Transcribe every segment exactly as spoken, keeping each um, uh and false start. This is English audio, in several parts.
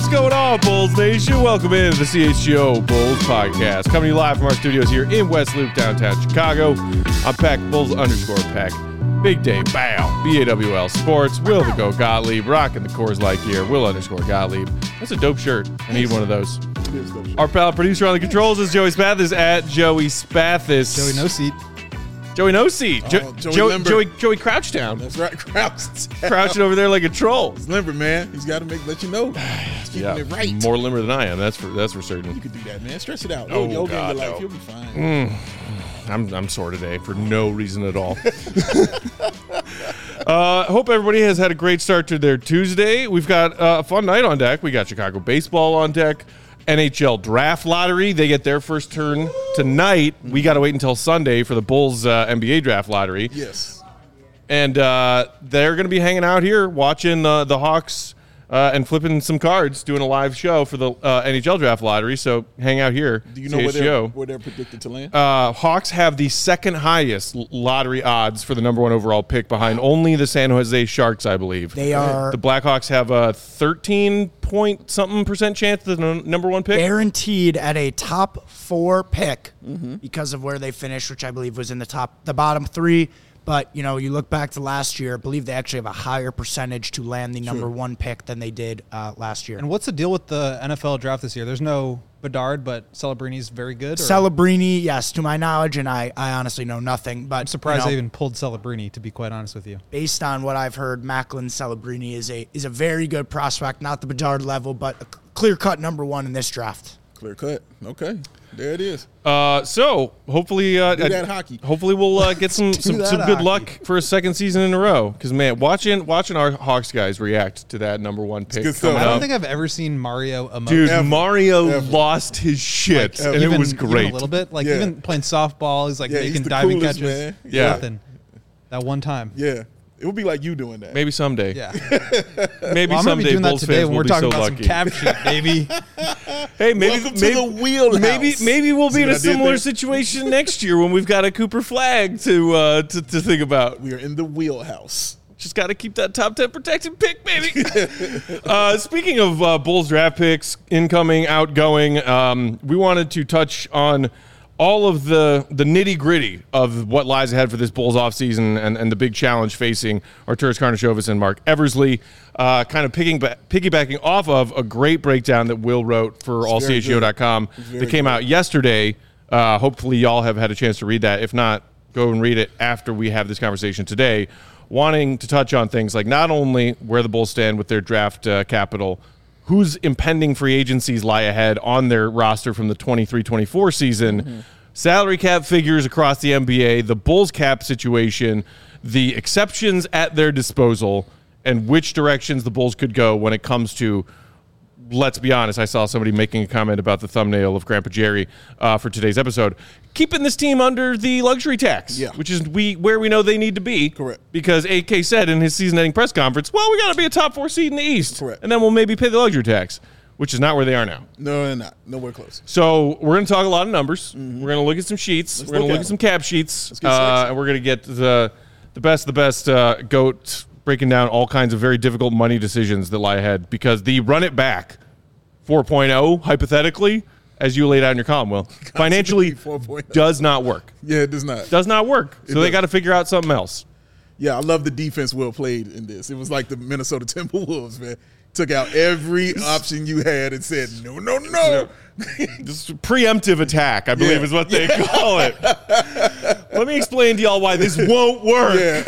going on, Bulls Nation? Welcome in to the C H G O Bulls Podcast. Coming to you live from our studios here in West Loop, downtown Chicago. I'm Peck, Bulls underscore Peck. Big Day, Bow, B A W L Sports, Will the Go Gottlieb, rocking the Coors Light gear, Will underscore Gottlieb. That's a dope shirt. I need one of those. Our pal producer on the controls is Joey Spathis at Joey Spathis. Joey No Seat. Joey No Seat. Jo- Oh, Joey Joey, Limber. Joey, Joey Crouchdown. That's right, Crouchdown. Crouching over there like a troll. He's limber, man. He's got to make let you know. He's keeping Yeah, it right. more limber than I am. That's for that's for certain. You can do that, man. Stress it out. Oh, No yoga God, in your life. no. You'll be fine. Mm. I'm I'm sore today for no reason at all. uh, hope everybody has had a great start to their Tuesday. We've got uh, a fun night on deck. We got Chicago baseball on deck. N H L draft lottery. They get their first turn tonight. We got to wait until Sunday for the Bulls uh, N B A draft lottery. Yes. And uh, they're going to be hanging out here watching uh, the Hawks uh, and flipping some cards, doing a live show for the uh, N H L draft lottery. So hang out here. Do you know where they're, where they're predicted to land? Uh, Hawks have the second highest l- lottery odds for the number one overall pick, behind only the San Jose Sharks, I believe. They are The Blackhawks have a thirteen point something percent chance of the n- number one pick. guaranteed at a top four pick Mm-hmm. because of where they finished, which I believe was in the top, the bottom three. But, you know, you look back to last year, I believe they actually have a higher percentage to land the number True. one pick than they did uh, last year. And what's the deal with the N F L draft this year? There's no Bedard, but Celebrini's very good. Or? Celebrini, yes, to my knowledge, and I, I honestly know nothing. But I'm surprised you know, they even pulled Celebrini, to be quite honest with you. based on what I've heard, Macklin Celebrini is a is a very good prospect, not the Bedard level, but a clear-cut number one in this draft. Clear cut. Okay. There it is. Uh, so hopefully, uh, Do that hockey. Hopefully, we'll uh, get some some, that some good hockey. luck for a second season in a row. Because man, watching watching our Hawks guys react to that number one pick good stuff. coming I don't up. think I've ever seen Mario emote. Dude, Ever. Mario Ever. lost his shit, and even, it was even great. a little bit. Like, Yeah. even playing softball, he's like Yeah, he's making the diving coolest, catches. man. Yeah. Nothing. That one time. Yeah. It would be like you doing that. Maybe someday. Yeah. Maybe Well, I'm going to someday be doing that Bulls today fans when will we're be talking so about lucky. some cap sheet, baby. Hey, maybe Welcome to maybe, the wheelhouse. maybe maybe we'll See be in what a I did similar there? situation next year when we've got a Cooper Flag to uh, to, to think about. We are in the wheelhouse. Just got to keep that top ten protected pick, baby. uh, speaking of uh, Bulls draft picks, incoming, outgoing, um, we wanted to touch on all of the, the nitty-gritty of what lies ahead for this Bulls offseason and, and the big challenge facing Arturas Karnisovas and Mark Eversley, uh, kind of picking, piggybacking off of a great breakdown that Will wrote for all C H G O dot com very that came good. out yesterday. Uh, hopefully y'all have had a chance to read that. If not, go and read it after we have this conversation today, wanting to touch on things like not only where the Bulls stand with their draft uh, capital, whose impending free agencies lie ahead on their roster from the twenty-three twenty-four season, Mm-hmm. salary cap figures across the N B A, the Bulls cap situation, the exceptions at their disposal, and which directions the Bulls could go when it comes to, let's be honest, I saw somebody making a comment about the thumbnail of Grandpa Jerry uh, for today's episode, keeping this team under the luxury tax, Yeah. which is we where we know they need to be. Correct. Because A K said in his season-ending press conference, well, we got to be a top four seed in the East. Correct. And then we'll maybe pay the luxury tax, which is not where they are now. No, they're not. Nowhere close. So we're going to talk a lot of numbers. We're going to look at some sheets. Let's we're going to look look at at some cap sheets. Let's get Uh, sexy. and we're going to get the the best, the best uh, GOAT breaking down all kinds of very difficult money decisions that lie ahead, because the run it back four point oh, hypothetically, as you laid out in your column, Will, financially four point oh. does not work. Yeah, it does not. Does not work. So they doesn't. got to figure out something else. Yeah, I love the defense Will played in this. It was like the Minnesota Timberwolves, man. Took out every option you had and said, no, no, no. This preemptive attack, I believe, Yeah. is what they call it. Let me explain to y'all why this won't work. Yeah.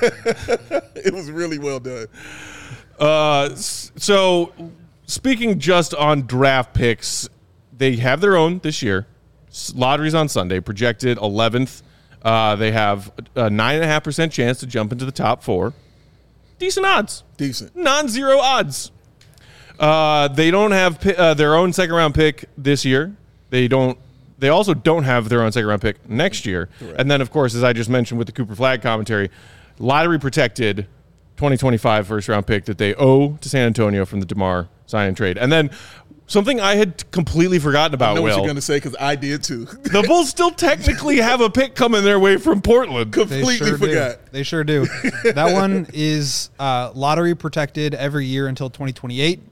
It was really well done. Uh, s- so, speaking just on draft picks, they have their own this year. S- Lottery's on Sunday, projected eleventh. Uh, they have a nine point five percent chance to jump into the top four. Decent odds. Decent. Non-zero odds. Uh, they don't have pi- uh, their own second-round pick this year. They don't. They also don't have their own second-round pick next year. Correct. And then, of course, as I just mentioned with the Cooper Flag commentary, lottery-protected twenty twenty-five first-round pick that they owe to San Antonio from the DeMar sign and trade. And then something I had completely forgotten about, I know what Will. you're going to say because I did too. The Bulls still technically have a pick coming their way from Portland. They Completely sure forgot. do. They sure do. That one is uh, lottery protected every year until twenty twenty-eight.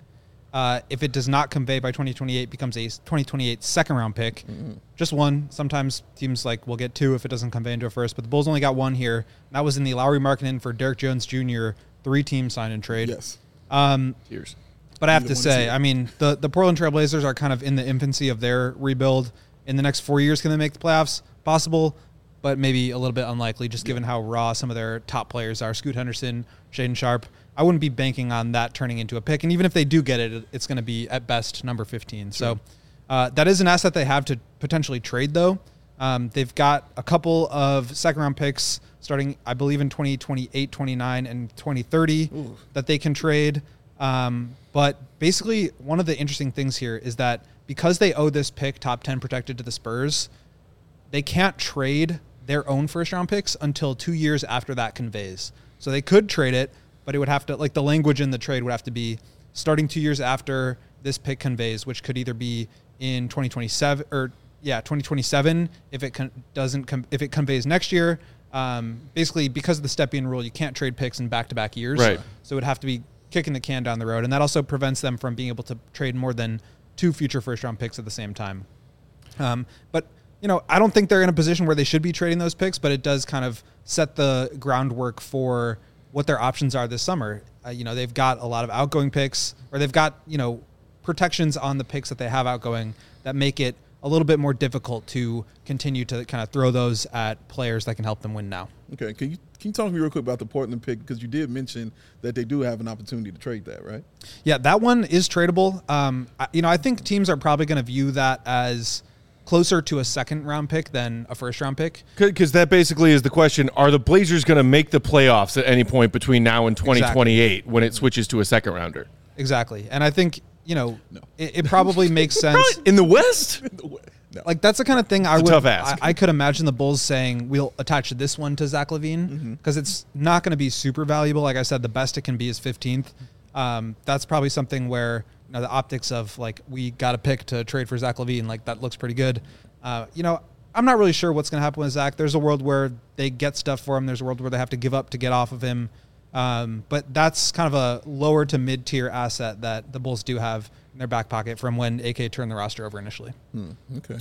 Uh, if it does not convey by twenty twenty-eight, becomes a twenty twenty-eight second round pick. Mm-hmm. Just one. Sometimes teams like will get two if it doesn't convey into a first, but the Bulls only got one here. And that was in the Lowry Markkinen for Derrick Jones Junior three team sign and trade. Yes. Um, Cheers. But I have to say, I mean, the, the Portland Trail Blazers are kind of in the infancy of their rebuild. In the next four years, can they make the playoffs? Possible, but maybe a little bit unlikely, just given how raw some of their top players are. Scoot Henderson, Shaedon Sharpe. I wouldn't be banking on that turning into a pick. And even if they do get it, it's going to be at best number fifteen. Sure. So uh, that is an asset they have to potentially trade, though. Um, they've got a couple of second-round picks starting, I believe, in twenty twenty-eight, twenty-nine, and twenty thirty Ooh. That they can trade. Um, but basically, one of the interesting things here is that because they owe this pick top ten protected to the Spurs, they can't trade their own first-round picks until two years after that conveys. So they could trade it, but it would have to, like the language in the trade would have to be starting two years after this pick conveys, which could either be in twenty twenty-seven or yeah, twenty twenty-seven if it con- doesn't com- if it conveys next year. Um, basically, because of the step-in rule, you can't trade picks in back-to-back years. Right. So it would have to be kicking the can down the road, and that also prevents them from being able to trade more than two future first-round picks at the same time. Um, but you know, I don't think they're in a position where they should be trading those picks, but it does kind of set the groundwork for what their options are this summer. Uh, you know, they've got a lot of outgoing picks, or they've got, you know, protections on the picks that they have outgoing that make it a little bit more difficult to continue to kind of throw those at players that can help them win now. Okay, can you can you talk to me real quick about the Portland pick, because you did mention that they do have an opportunity to trade that, right? Yeah, that one is tradable. Um, I, you know, I think teams are probably going to view that as closer to a second round pick than a first round pick. Because that basically is the question: are the Blazers going to make the playoffs at any point between now and twenty twenty-eight exactly. when it switches to a second rounder? Exactly, and I think you know no. it, it probably makes sense in the West. In the West. No. Like that's the kind of thing I it's would. Tough ask. I, I could imagine the Bulls saying we'll attach this one to Zach LaVine because mm-hmm. it's not going to be super valuable. Like I said, the best it can be is fifteenth. Um, that's probably something where you know the optics of like we got a pick to trade for Zach LaVine, like that looks pretty good. Uh, you know, I'm not really sure what's going to happen with Zach. There's a world where they get stuff for him. There's a world where they have to give up to get off of him. Um, but that's kind of a lower to mid tier asset that the Bulls do have in their back pocket from when A K turned the roster over initially. Hmm, okay.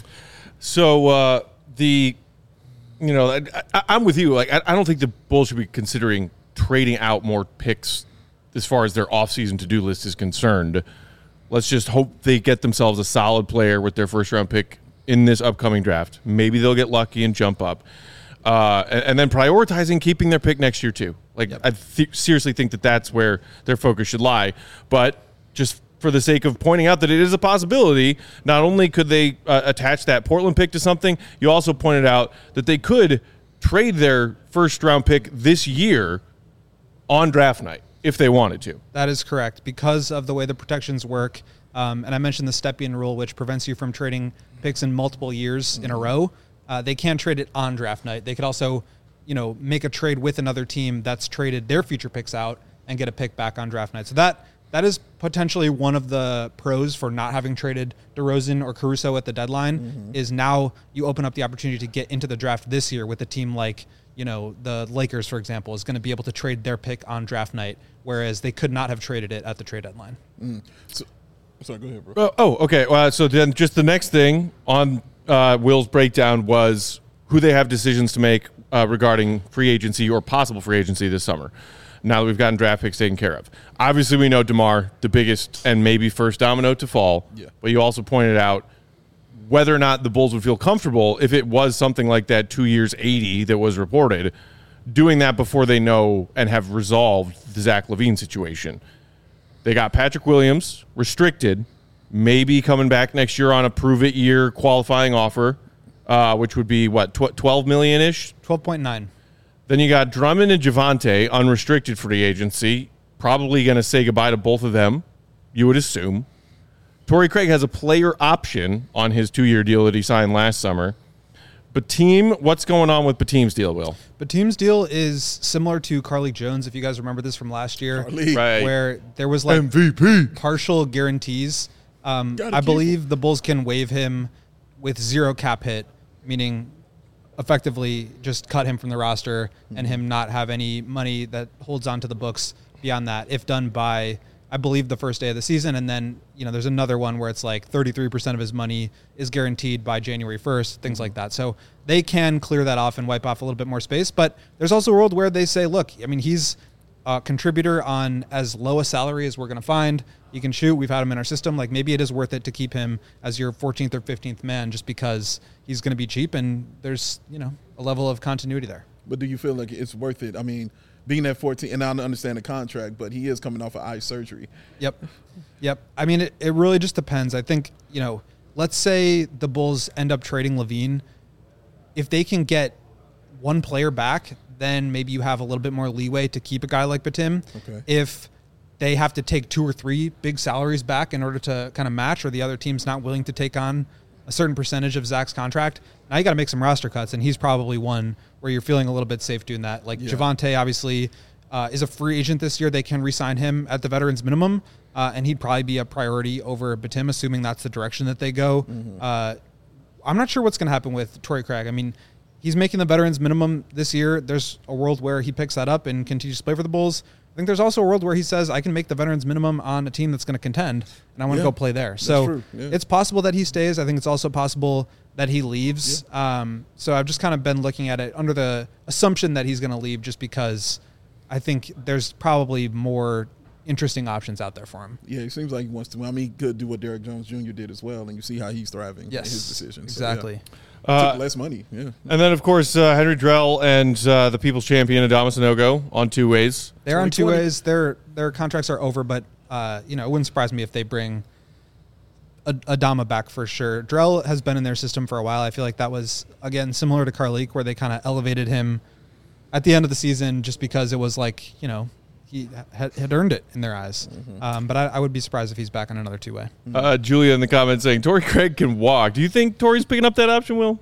So uh, the, you know, I, I, I'm with you. Like, I, I don't think the Bulls should be considering trading out more picks as far as their offseason to-do list is concerned. Let's just hope they get themselves a solid player with their first round pick in this upcoming draft. Maybe they'll get lucky and jump up. Uh, and, and then prioritizing keeping their pick next year too. Like, yep. I th- seriously think that that's where their focus should lie. But just for the sake of pointing out that it is a possibility, not only could they uh, attach that Portland pick to something, you also pointed out that they could trade their first round pick this year on draft night if they wanted to. That is correct. Because of the way the protections work, um, and I mentioned the step-in rule, which prevents you from trading picks in multiple years mm-hmm. in a row, uh, they can trade it on draft night. They could also, you know, make a trade with another team that's traded their future picks out and get a pick back on draft night. So that that is potentially one of the pros for not having traded DeRozan or Caruso at the deadline mm-hmm. is now you open up the opportunity to get into the draft this year with a team like, you know, the Lakers, for example, is going to be able to trade their pick on draft night, whereas they could not have traded it at the trade deadline. Mm. So, sorry, go ahead, bro. Uh, oh, okay. Uh, so then just the next thing on uh, Will's breakdown was who they have decisions to make uh, regarding free agency or possible free agency this summer. Now that we've gotten draft picks taken care of. Obviously, we know DeMar, the biggest and maybe first domino to fall. Yeah. But you also pointed out whether or not the Bulls would feel comfortable if it was something like that two years eighty that was reported, doing that before they know and have resolved the Zach LaVine situation. They got Patrick Williams, restricted, maybe coming back next year on a prove-it year qualifying offer, uh, which would be, what, twelve million dollars-ish? twelve point nine. Then you got Drummond and Javante, unrestricted free agency. Probably going to say goodbye to both of them, you would assume. Torrey Craig has a player option on his two-year deal that he signed last summer. Bateem, what's going on with Bateem's deal, Will? Bateem's deal is similar to Carly Jones, if you guys remember this from last year, Carly. Right. where there was like M V P partial guarantees. Um, I believe him. The Bulls can waive him with zero cap hit, meaning effectively just cut him from the roster mm-hmm. and him not have any money that holds onto the books beyond that, if done by I believe, the first day of the season. And then, you know, there's another one where it's like thirty-three percent of his money is guaranteed by January first, things like that. So they can clear that off and wipe off a little bit more space. But there's also a world where they say, look, I mean, he's a contributor on as low a salary as we're going to find. He can shoot. We've had him in our system. Like, maybe it is worth it to keep him as your fourteenth or fifteenth man just because he's going to be cheap and there's, you know, a level of continuity there. But do you feel like it's worth it? I mean, being at fourteen, and I understand the contract, but he is coming off of eye surgery. Yep. Yep. I mean, it, it really just depends. I think, you know, let's say the Bulls end up trading LaVine. If they can get one player back, then maybe you have a little bit more leeway to keep a guy like Batum. Okay. If they have to take two or three big salaries back in order to kind of match, or the other team's not willing to take on a certain percentage of Zach's contract, now you got to make some roster cuts, and he's probably one where you're feeling a little bit safe doing that. Like, yeah. Javonte, obviously, uh, is a free agent this year. They can re-sign him at the veterans minimum, uh, and he'd probably be a priority over Batum, assuming that's the direction that they go. Mm-hmm. Uh, I'm not sure what's going to happen with Torrey Craig. I mean, he's making the veterans minimum this year. There's a world where he picks that up and continues to play for the Bulls. I think there's also a world where he says, I can make the veterans minimum on a team that's going to contend, and I want to yeah, go play there. So yeah. it's possible that he stays. I think it's also possible that he leaves. Yeah. Um, so I've just kind of been looking at it under the assumption that he's going to leave, just because I think there's probably more interesting options out there for him. Yeah, it seems like he wants to. I mean, he could do what Derrick Jones Junior did as well, and you see how he's thriving yes, in his decision. Exactly. So, yeah. Uh, Took less money, yeah. And then, of course, uh, Henry Drell and uh, the People's Champion, Adama Sanogo, on two ways. They're on two ways. Their their contracts are over, but uh, you know, it wouldn't surprise me if they bring Adama back for sure. Drell has been in their system for a while. I feel like that was, again, similar to Carlik, where they kind of elevated him at the end of the season just because it was like, you know, he had, had earned it in their eyes. Mm-hmm. Um, but I, I would be surprised if he's back on another two-way. Uh, Julia in the comments saying, Torrey Craig can walk. Do you think Torrey's picking up that option, Will?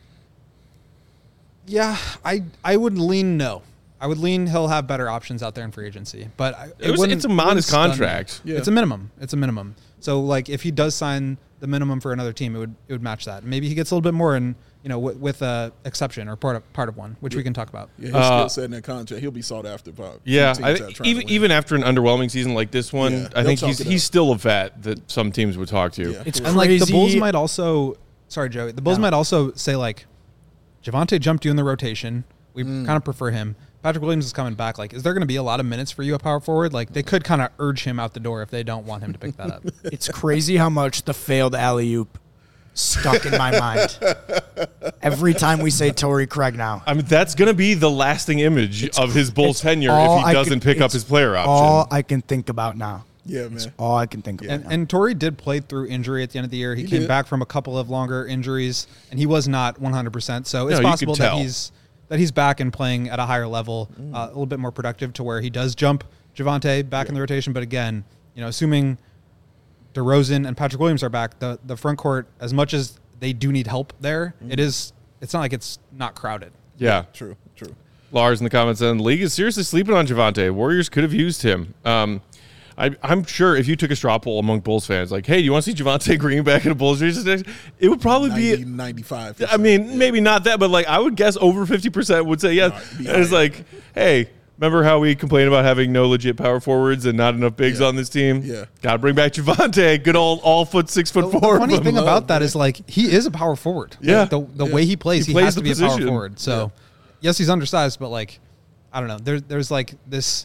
Yeah, I I would lean no. I would lean he'll have better options out there in free agency. But it, it was, it's a modest contract. Yeah. It's a minimum. It's a minimum. So, like, if he does sign the minimum for another team, it would it would match that. Maybe he gets a little bit more in, you know, w- with a exception or part of part of one, which yeah. we can talk about. Yeah, his uh, skill set in that contract, he'll be sought after. By yeah, I th- even even after an underwhelming season like this one, yeah, I think he's he's still a vet that some teams would talk to. Yeah. It's and crazy. like the Bulls might also, sorry Joey, the Bulls no. might also say like, Javonte jumped you in the rotation. We mm. kind of prefer him. Patrick Williams is coming back. Like, is there going to be a lot of minutes for you at power forward? Like, they could kind of urge him out the door if they don't want him to pick that up. It's crazy how much the failed alley-oop stuck in my mind. Every time we say Torrey Craig now. I mean, that's going to be the lasting image it's, of his Bulls tenure if he doesn't can, pick up his player option. All I can think about now. Yeah, man. It's all I can think yeah. about. And, and Torrey did play through injury at the end of the year. He, he came did. back from a couple of longer injuries, and he was not one hundred percent. So it's no, possible that he's that he's back and playing at a higher level, mm. uh, a little bit more productive to where he does jump Javonte back yeah. in the rotation. But again, you know, assuming DeRozan and Patrick Williams are back, the, the front court, as much as they do need help there, mm. it is, it's not like it's not crowded. Yeah. yeah true, true. Lars in the comments saying, the league is seriously sleeping on Javonte. Warriors could have used him. Um, I, I'm sure if you took a straw poll among Bulls fans, like, hey, do you want to see Javonte Green back in a Bulls jersey? It would probably ninety, be ninety-five I mean, yeah. maybe not that, but like I would guess over fifty percent would say yes. No, and it's like, hey, remember how we complain about having no legit power forwards and not enough bigs yeah. on this team? Yeah. Got to bring back Javonte, good old all foot, six foot the, four. The funny thing about that is like he is a power forward. Yeah. Like, the the yeah. way he plays, he, he, plays has to be position. a power forward. So, yeah. yes, he's undersized, but like, I don't know. There's there's like this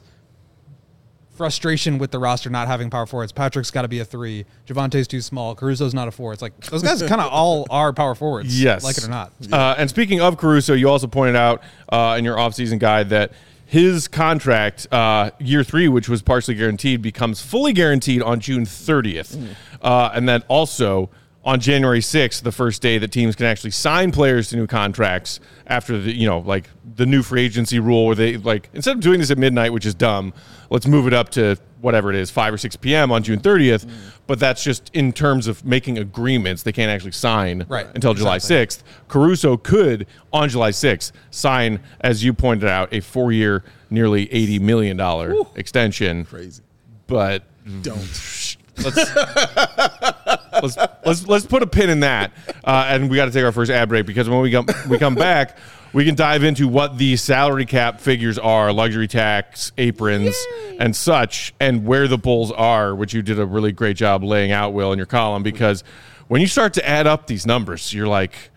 frustration with the roster not having power forwards. Patrick's got to be a three. Javonte's too small. Caruso's not a four. It's like those guys kind of all are power forwards. Yes. Like it or not. Uh, and speaking of Caruso, you also pointed out uh, in your offseason guide that his contract, uh, year three, which was partially guaranteed, becomes fully guaranteed on June thirtieth. Mm. Uh, and then also on January sixth, the first day that teams can actually sign players to new contracts after the, you know, like the new free agency rule where they, like, instead of doing this at midnight, which is dumb, let's move it up to whatever it is, five or six p.m. on June thirtieth. Mm. But that's just in terms of making agreements. They can't actually sign right. until exactly. July sixth. Caruso could, on July sixth, sign, as you pointed out, a four-year, nearly eighty million dollars Woo. extension. Crazy. But don't. Let's let's let's let's put a pin in that, uh, and we got to take our first ad break because when we come we come back, we can dive into what the salary cap figures are, luxury tax, aprons, Yay. and such, and where the Bulls are, which you did a really great job laying out, Will, in your column. Because when you start to add up these numbers, you're like,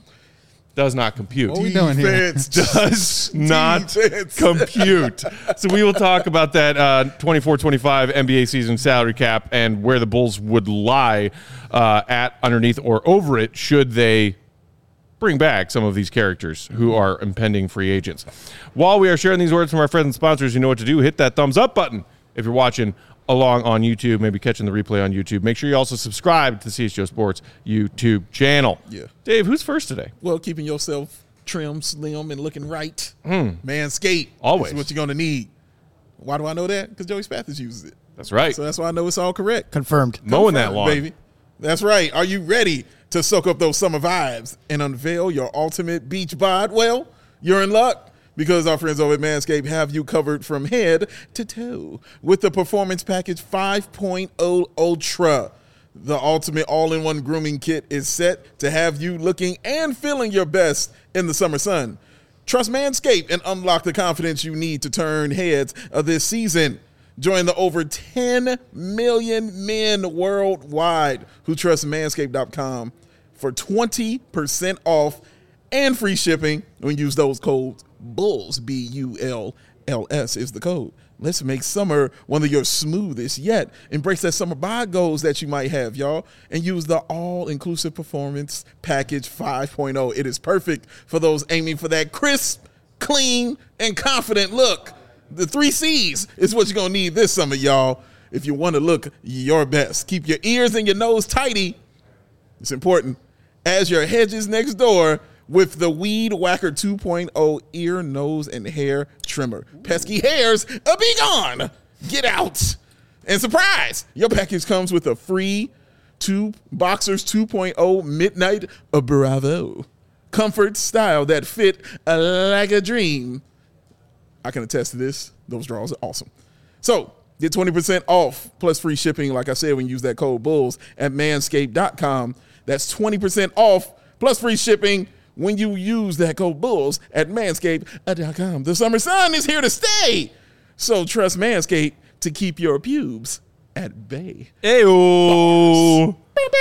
does not compute. What are we doing here? Does not compute. So we will talk about that uh, twenty-four twenty-five N B A season salary cap and where the Bulls would lie uh, at, underneath, or over it should they bring back some of these characters who are impending free agents. While we are sharing these words from our friends and sponsors, you know what to do. Hit that thumbs up button if you're watching along on YouTube, maybe catching the replay on YouTube. Make sure you also subscribe to the C H G O Sports YouTube channel. Yeah. Dave, who's first today? Well, keeping yourself trim, slim, and looking right. Mm. Manscaped. Always. Is what you're going to need. Why do I know that? Because Joey Spathis uses it. That's right. So that's why I know it's all correct. Confirmed. Mowing that Confirmed, lawn. baby. That's right. Are you ready to soak up those summer vibes and unveil your ultimate beach bod? Well, you're in luck. Because our friends over at Manscaped have you covered from head to toe with the Performance Package five point oh Ultra. The ultimate all-in-one grooming kit is set to have you looking and feeling your best in the summer sun. Trust Manscaped and unlock the confidence you need to turn heads of this season. Join the over ten million men worldwide who trust manscaped dot com for twenty percent off and free shipping when you use those codes. Bulls, B U L L S is the code. Let's make summer one of your smoothest yet. Embrace that summer bod goals that you might have, y'all, and use the all-inclusive Performance Package five point oh. It is perfect for those aiming for that crisp, clean, and confident look. The three C's is what you're going to need this summer, y'all, if you want to look your best. Keep your ears and your nose tidy. It's important. As your hedges next door, with the Weed Whacker two point oh ear, nose, and hair trimmer. Pesky hairs, uh, be gone. Get out. And surprise, your package comes with a free two Boxers two point oh Midnight uh, Bravo. Comfort style that fit uh, like a dream. I can attest to this. Those draws are awesome. So get twenty percent off plus free shipping, like I said, when you use that code BULLS at manscaped dot com. That's twenty percent off plus free shipping when you use that code BULLS at manscaped dot com. The summer sun is here to stay. So trust Manscaped to keep your pubes at bay. Ayo.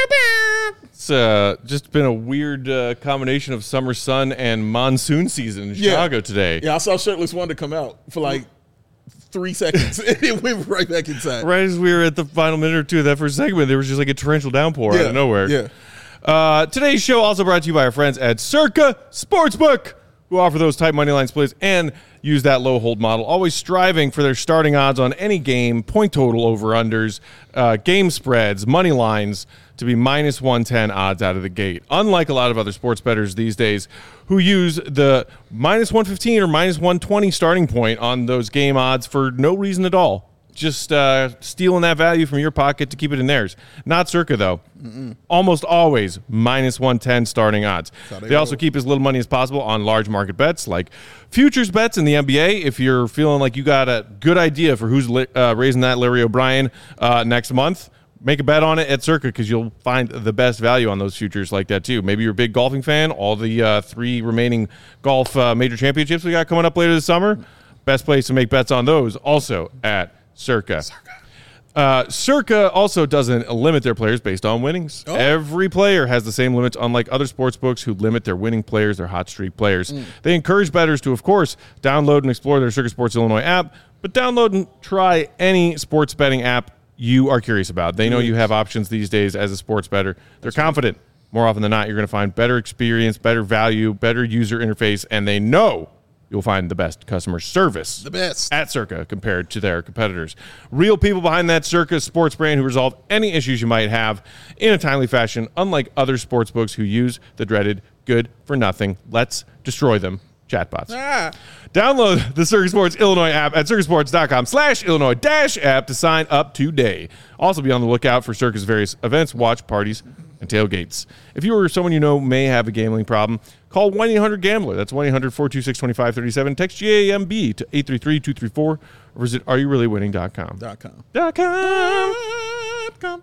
It's uh, just been a weird uh, combination of summer sun and monsoon season in Chicago yeah. today. Yeah, I saw Shirtless Wonder come out for like three seconds. And it went right back inside. Right as we were at the final minute or two of that first segment, there was just like a torrential downpour yeah. out of nowhere. Yeah. Uh, today's show also brought to you by our friends at Circa Sportsbook, who offer those tight money line splits and use that low hold model, always striving for their starting odds on any game, point total over-unders, uh, game spreads, money lines to be minus one ten odds out of the gate. Unlike a lot of other sports bettors these days who use the minus one fifteen or minus one twenty starting point on those game odds for no reason at all. Just uh, stealing that value from your pocket to keep it in theirs. Not Circa, though. Mm-mm. Almost always minus one ten starting odds. They, they also keep as little money as possible on large market bets like futures bets in the N B A. If you're feeling like you got a good idea for who's li- uh, raising that Larry O'Brien uh, next month, make a bet on it at Circa because you'll find the best value on those futures like that, too. Maybe you're a big golfing fan. All the uh, three remaining golf uh, major championships we got coming up later this summer, best place to make bets on those also at Circa. Circa. Uh, Circa also doesn't limit their players based on winnings. Oh. Every player has the same limits, unlike other sports books who limit their winning players, their hot streak players. Mm. They encourage bettors to, of course, download and explore their Circa Sports Illinois app, but download and try any sports betting app you are curious about. They know mm. you have options these days as a sports bettor. They're That's confident. Right. More often than not, you're going to find better experience, better value, better user interface, and they know you'll find the best customer service the best at Circa compared to their competitors. Real people behind that Circa sports brand who resolve any issues you might have in a timely fashion, unlike other sports books who use the dreaded good for nothing, let's destroy them chatbots. Ah. Download the Circa Sports Illinois app at circasports.com slash Illinois dash app to sign up today. Also be on the lookout for Circa's various events, watch parties, and tailgates. If you or someone you know may have a gambling problem, call one eight hundred gambler. That's one eight hundred four two six two five three seven. Text G A M B to eight three three two three four or visit are you really winning dot com. Dot com. Dot com. Dot com.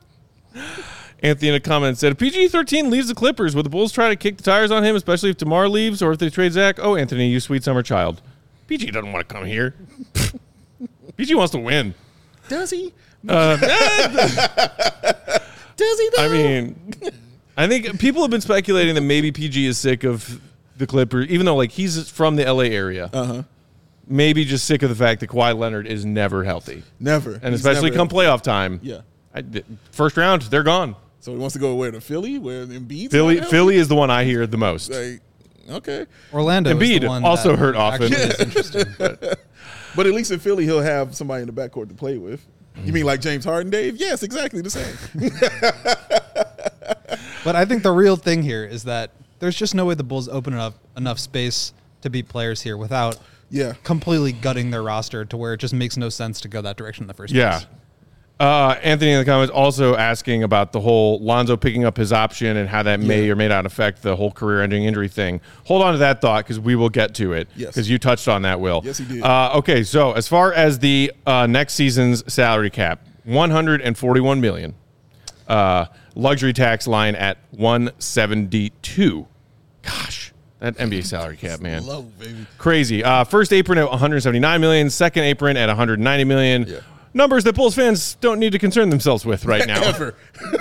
Anthony in a comment said, if P G thirteen leaves the Clippers, would the Bulls try to kick the tires on him, especially if DeMar leaves or if they trade Zach? Oh, Anthony, you sweet summer child. P G doesn't want to come here. P G wants to win. Does he? Uh, Does he, though? I mean, I think people have been speculating that maybe P G is sick of the Clippers, even though like he's from the L A area. Uh-huh. Maybe just sick of the fact that Kawhi Leonard is never healthy. Never. And He's especially never come playoff time. Yeah. I, first round, they're gone. So he wants to go where to Philly, where Embiid's Philly not healthy? Philly is the one I hear the most. Like, okay. Orlando is Embiid the one also that hurt often. actually is interesting. But But at least in Philly, he'll have somebody in the backcourt to play with. You mean like James Harden, Dave? Yes, exactly the same. But I think the real thing here is that there's just no way the Bulls open enough enough space to beat players here without Yeah. completely gutting their roster to where it just makes no sense to go that direction in the first yeah. place. Uh, Anthony in the comments also asking about the whole Lonzo picking up his option and how that may Yeah. or may not affect the whole career-ending injury thing. Hold on to that thought because we will get to it. Yes. Because you touched on that, Will. Yes, he did. Uh, okay, so as far as the uh, next season's salary cap, one hundred forty-one million dollars. Uh, luxury tax line at one seventy-two. Gosh, that N B A salary cap, man. Low, baby. Crazy. Uh, first apron at one hundred seventy-nine million dollars, second apron at one hundred ninety million dollars. Yeah. Numbers that Bulls fans don't need to concern themselves with right now. Ever.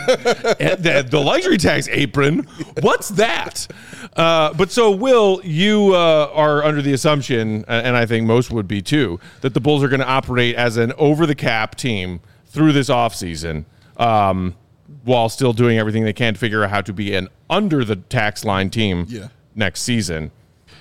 And the, the luxury tax apron, what's that? Uh, but so, Will, you uh, are under the assumption, and I think most would be too, that the Bulls are going to operate as an over-the-cap team through this offseason um, while still doing everything they can to figure out how to be an under-the-tax line team Yeah. next season.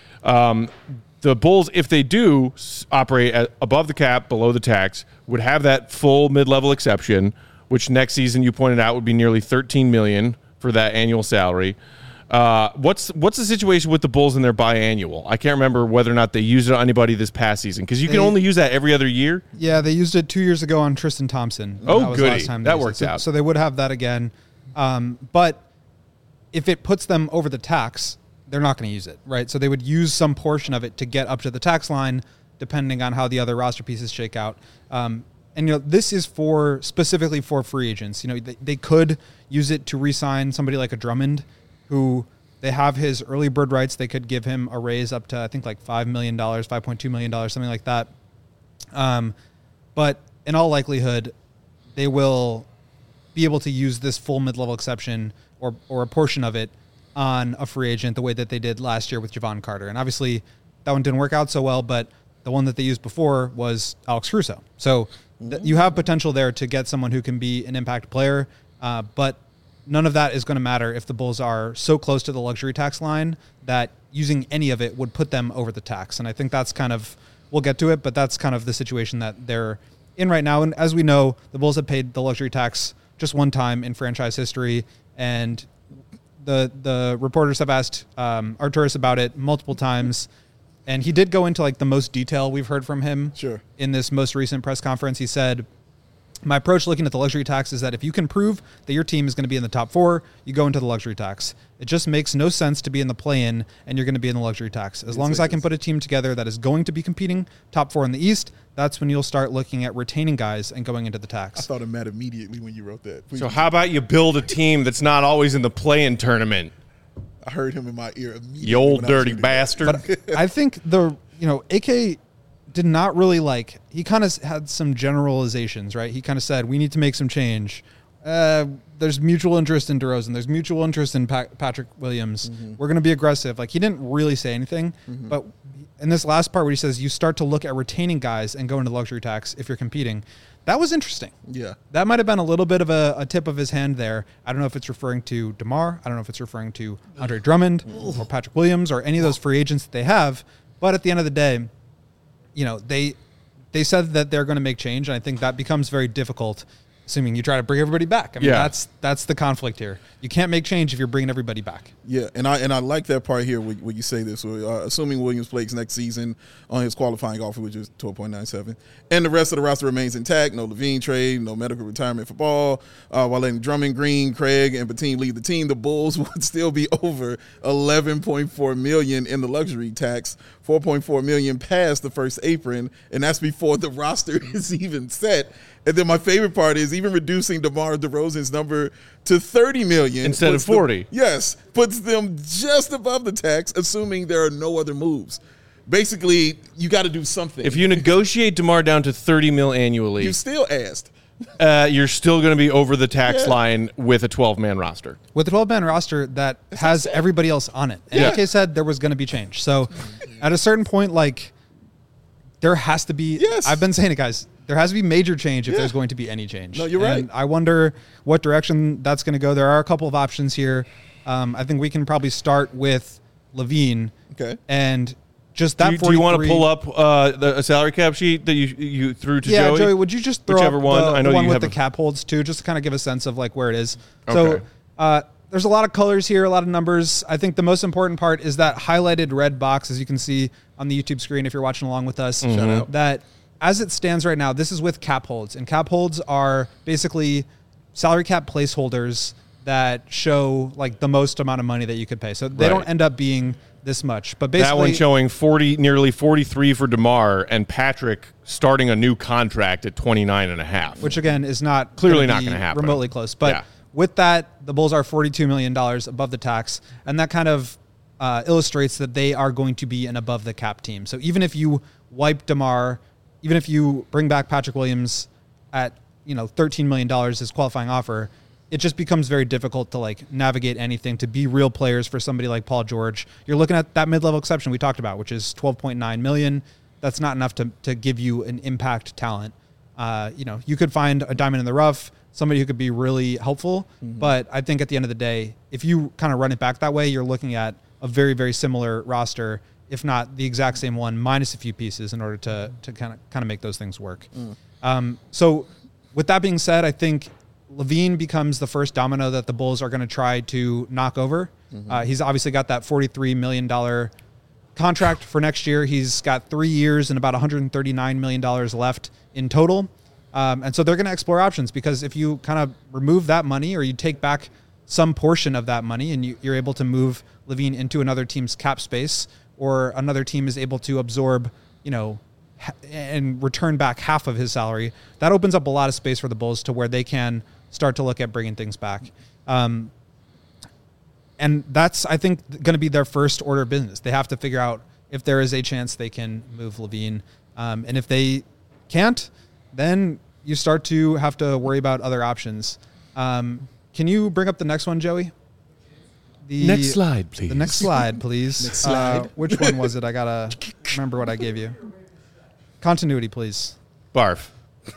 Um, the Bulls, if they do s- operate at above the cap, below the tax, would have that full mid-level exception, which next season you pointed out would be nearly thirteen million dollars for that annual salary. Uh, what's what's the situation with the Bulls in their biannual? I can't remember whether or not they used it on anybody this past season because you can They- only use that every other year. Yeah, they used it two years ago on Tristan Thompson. Oh, that was the goody. last time they That used it. works So- out. So they would have that again. Um, but if it puts them over the tax, they're not going to use it, right? So they would use some portion of it to get up to the tax line, depending on how the other roster pieces shake out. Um, and you know, this is for specifically for free agents. You know, they, they could use it to re-sign somebody like a Drummond, who they have his early bird rights. They could give him a raise up to I think like five million dollars, five point two million dollars, something like that. Um, but in all likelihood, they will be able to use this full mid-level exception or or a portion of it on a free agent the way that they did last year with Javon Carter. And obviously that one didn't work out so well, but the one that they used before was Alex Caruso. So th- you have potential there to get someone who can be an impact player, uh, but none of that is going to matter if the Bulls are so close to the luxury tax line that using any of it would put them over the tax. And I think that's kind of, we'll get to it, but that's kind of the situation that they're in right now. And as we know, the Bulls have paid the luxury tax just one time in franchise history, and the the reporters have asked um, Arturis about it multiple times, and he did go into like the most detail we've heard from him. Sure. In this most recent press conference, he said, my approach looking at the luxury tax is that if you can prove that your team is going to be in the top four, you go into the luxury tax. It just makes no sense to be in the play-in and you're going to be in the luxury tax. As long as I can put a team together that is going to be competing top four in the East, that's when you'll start looking at retaining guys and going into the I tax. thought of Matt immediately when you wrote that. Please. So how about you build a team that's not always in the play-in tournament? I heard him in my ear immediately. You old when I was dirty reading that. bastard. I think the, you know, A K did not really like, he kind of had some generalizations, right? He kind of said, we need to make some change. Uh, there's mutual interest in DeRozan. There's mutual interest in pa- Patrick Williams. Mm-hmm. We're going to be aggressive. Like, he didn't really say anything. Mm-hmm. But in this last part where he says you start to look at retaining guys and go into luxury tax if you're competing, that was interesting. Yeah. That might have been a little bit of a, a tip of his hand there. I don't know if it's referring to DeMar. I don't know if it's referring to Andre Drummond or Patrick Williams or any of those free agents that they have. But at the end of the day, you know, they they said that they're going to make change, and I think that becomes very difficult, assuming you try to bring everybody back. I mean, Yeah. that's that's the conflict here. You can't make change if you're bringing everybody back. Yeah, and I and I like that part here where, where you say this. Uh, assuming Williams plays next season on his qualifying offer, which is twelve point nine seven, and the rest of the roster remains intact. No Levine trade, no medical retirement for Ball. Uh, while letting Drummond, Green, Craig, and Batum leave the team, the Bulls would still be over eleven point four million in the luxury tax four point four million past the first apron, and that's before the roster is even set. And then my favorite part is even reducing DeMar DeRozan's number to thirty million instead of forty. Them, yes, puts them just above the tax, assuming there are no other moves. Basically, you got to do something. If you negotiate DeMar down to thirty mil annually, you still asked. Uh, you're still going to be over the tax Yeah. line with a twelve-man roster. With a twelve-man roster that has everybody else on it. And Yeah. A K said there was going to be change. So at a certain point, like, there has to be Yes. I've been saying it, guys. There has to be major change if Yeah. there's going to be any change. No, you're and right. I wonder what direction that's going to go. There are a couple of options here. Um, I think we can probably start with Levine. Okay. And just that Do you, do you want to forty-three pull up uh, the a salary cap sheet that you you threw to Yeah, Joey? Joey, would you just throw Whichever up one. the, I know the one you with have the a- cap holds too, just to kind of give a sense of like where it is. Okay. So uh, there's a lot of colors here, a lot of numbers. I think the most important part is that highlighted red box, as you can see on the YouTube screen if you're watching along with us. Mm-hmm. Shout out. That as it stands right now, this is with cap holds, and cap holds are basically salary cap placeholders that show like the most amount of money that you could pay. So they Right. don't end up being this much, but basically That one showing forty, nearly forty-three for DeMar, and Patrick starting a new contract at twenty-nine and a half. which again is not Clearly gonna not be gonna happen. remotely close. But Yeah. with that, the Bulls are forty-two million dollars above the tax, and that kind of uh, illustrates that they are going to be an above the cap team. So even if you wipe DeMar, even if you bring back Patrick Williams at you know thirteen million dollars as qualifying offer, it just becomes very difficult to like navigate anything, to be real players for somebody like Paul George. You're looking at that mid-level exception we talked about, which is twelve point nine million. That's not enough to, to give you an impact talent. Uh, you know, you could find a diamond in the rough, somebody who could be really helpful. Mm-hmm. But I think at the end of the day, if you kind of run it back that way, you're looking at a very, very similar roster, if not the exact same one, minus a few pieces in order to to kind of kind of make those things work. Mm. Um, so with that being said, I think Levine becomes the first domino that the Bulls are going to try to knock over. Mm-hmm. Uh, he's obviously got that forty-three million dollars contract for next year. He's got three years and about one hundred thirty-nine million dollars left in total. Um, and so they're going to explore options, because if you kind of remove that money, or you take back some portion of that money, and you, you're able to move Levine into another team's cap space, or another team is able to absorb, you know, ha- and return back half of his salary, that opens up a lot of space for the Bulls to where they can start to look at bringing things back. Um, and that's, I think, going to be their first order of business. They have to figure out if there is a chance they can move Levine. Um, and if they can't, then you start to have to worry about other options. Um, can you bring up the next one, Joey? The Next slide, please. The next slide, please. Next slide. Uh, which one was it? I got to remember what I gave you. Continuity, please. Barf.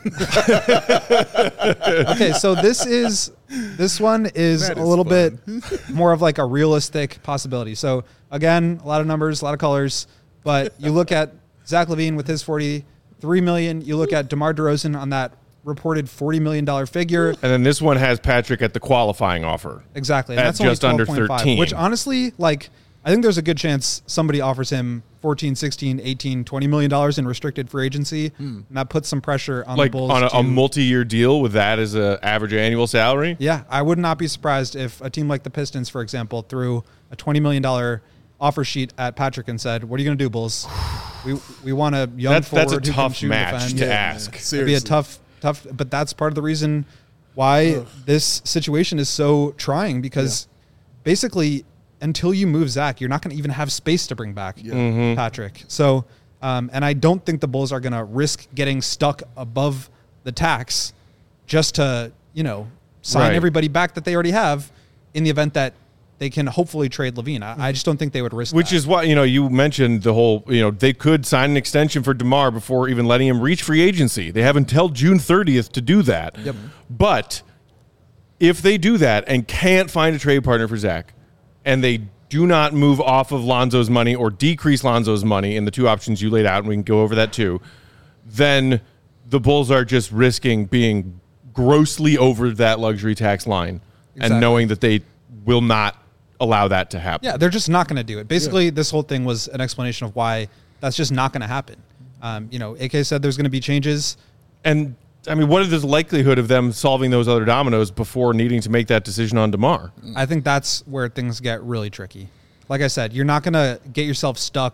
Okay, so this is this one is, That a is little fun. bit more of like a realistic possibility. So again, a lot of numbers, a lot of colors, but you look at Zach LaVine with his forty-three million. You look at DeMar DeRozan on that reported forty million dollar figure. And then this one has Patrick at the qualifying offer. Exactly. At And that's only just under twelve point five, thirteen. which honestly, like, I think there's a good chance somebody offers him fourteen, sixteen, eighteen, twenty million dollars in restricted free agency, and that puts some pressure on Like the Bulls. on a, to, a multi-year deal with that as an average annual salary. Yeah, I would not be surprised if a team like the Pistons, for example, threw a twenty million dollars offer sheet at Patrick and said, "What are you going to do, Bulls? We we want a young That's forward that's a who can tough shoot and match defend." to Yeah, ask. man. It'd Seriously. be a tough, tough. But that's part of the reason why Ugh. this situation is so trying, because basically, until you move Zach, you're not going to even have space to bring back Yeah. Mm-hmm. Patrick. So, um, and I don't think the Bulls are going to risk getting stuck above the tax just to, you know, sign Right. everybody back that they already have in the event that they can hopefully trade Levine. I, I just don't think they would risk Which that. is why, you know, you mentioned the whole, you know, they could sign an extension for DeMar before even letting him reach free agency. They have until June thirtieth to do that. Yep. But if they do that and can't find a trade partner for Zach, and they do not move off of Lonzo's money or decrease Lonzo's money in the two options you laid out, and we can go over that too, then the Bulls are just risking being grossly over that luxury tax line Exactly. and knowing that they will not allow that to happen. Yeah, they're just not going to do it. Basically, this whole thing was an explanation of why that's just not going to happen. Um, you know, A K said there's going to be changes. And I mean, what is the likelihood of them solving those other dominoes before needing to make that decision on DeMar? I think that's where things get really tricky. Like I said, you're not going to get yourself stuck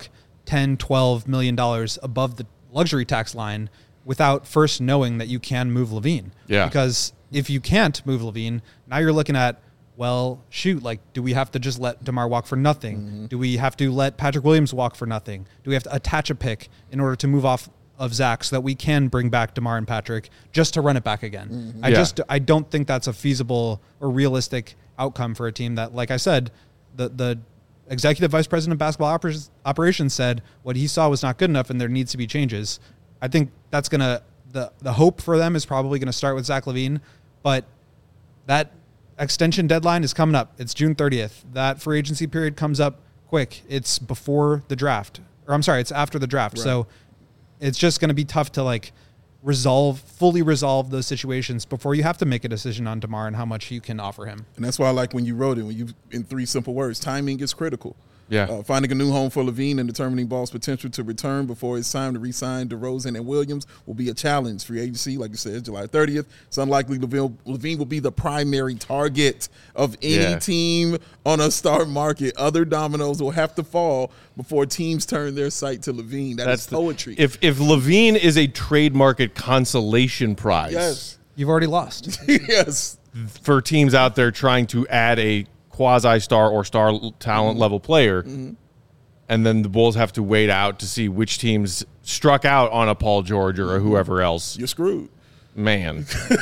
ten, twelve million dollars above the luxury tax line without first knowing that you can move LaVine. Yeah. Because if you can't move LaVine, now you're looking at, well, shoot, like, do we have to just let DeMar walk for nothing? Mm-hmm. Do we have to let Patrick Williams walk for nothing? Do we have to attach a pick in order to move off of Zach so that we can bring back DeMar and Patrick just to run it back again? Mm-hmm. I yeah. just I don't think that's a feasible or realistic outcome for a team that, like I said, the the executive vice president of basketball oper- operations said what he saw was not good enough and there needs to be changes. I think that's going to, the, the hope for them is probably going to start with Zach LaVine, but that extension deadline is coming up. It's June thirtieth. That free agency period comes up quick. It's before the draft, or I'm sorry, it's after the draft. Right. So it's just going to be tough to like resolve, fully resolve those situations before you have to make a decision on DeMar and how much you can offer him. And that's why I like when you wrote it, when you, in three simple words, timing is critical. Yeah. Uh, finding a new home for LaVine and determining Ball's potential to return before it's time to re-sign DeRozan and Williams will be a challenge. Free agency, like you said, July thirtieth. It's unlikely LaVine, LaVine will be the primary target of any yeah. team on a star market. Other dominoes will have to fall before teams turn their sight to LaVine. That That's is poetry. The, if if LaVine is a trade market consolation prize, yes, you've already lost. yes, for teams out there trying to add a quasi-star or star talent mm-hmm. level player, mm-hmm. and then the Bulls have to wait out to see which teams struck out on a Paul George or mm-hmm. whoever else. You're screwed. Man.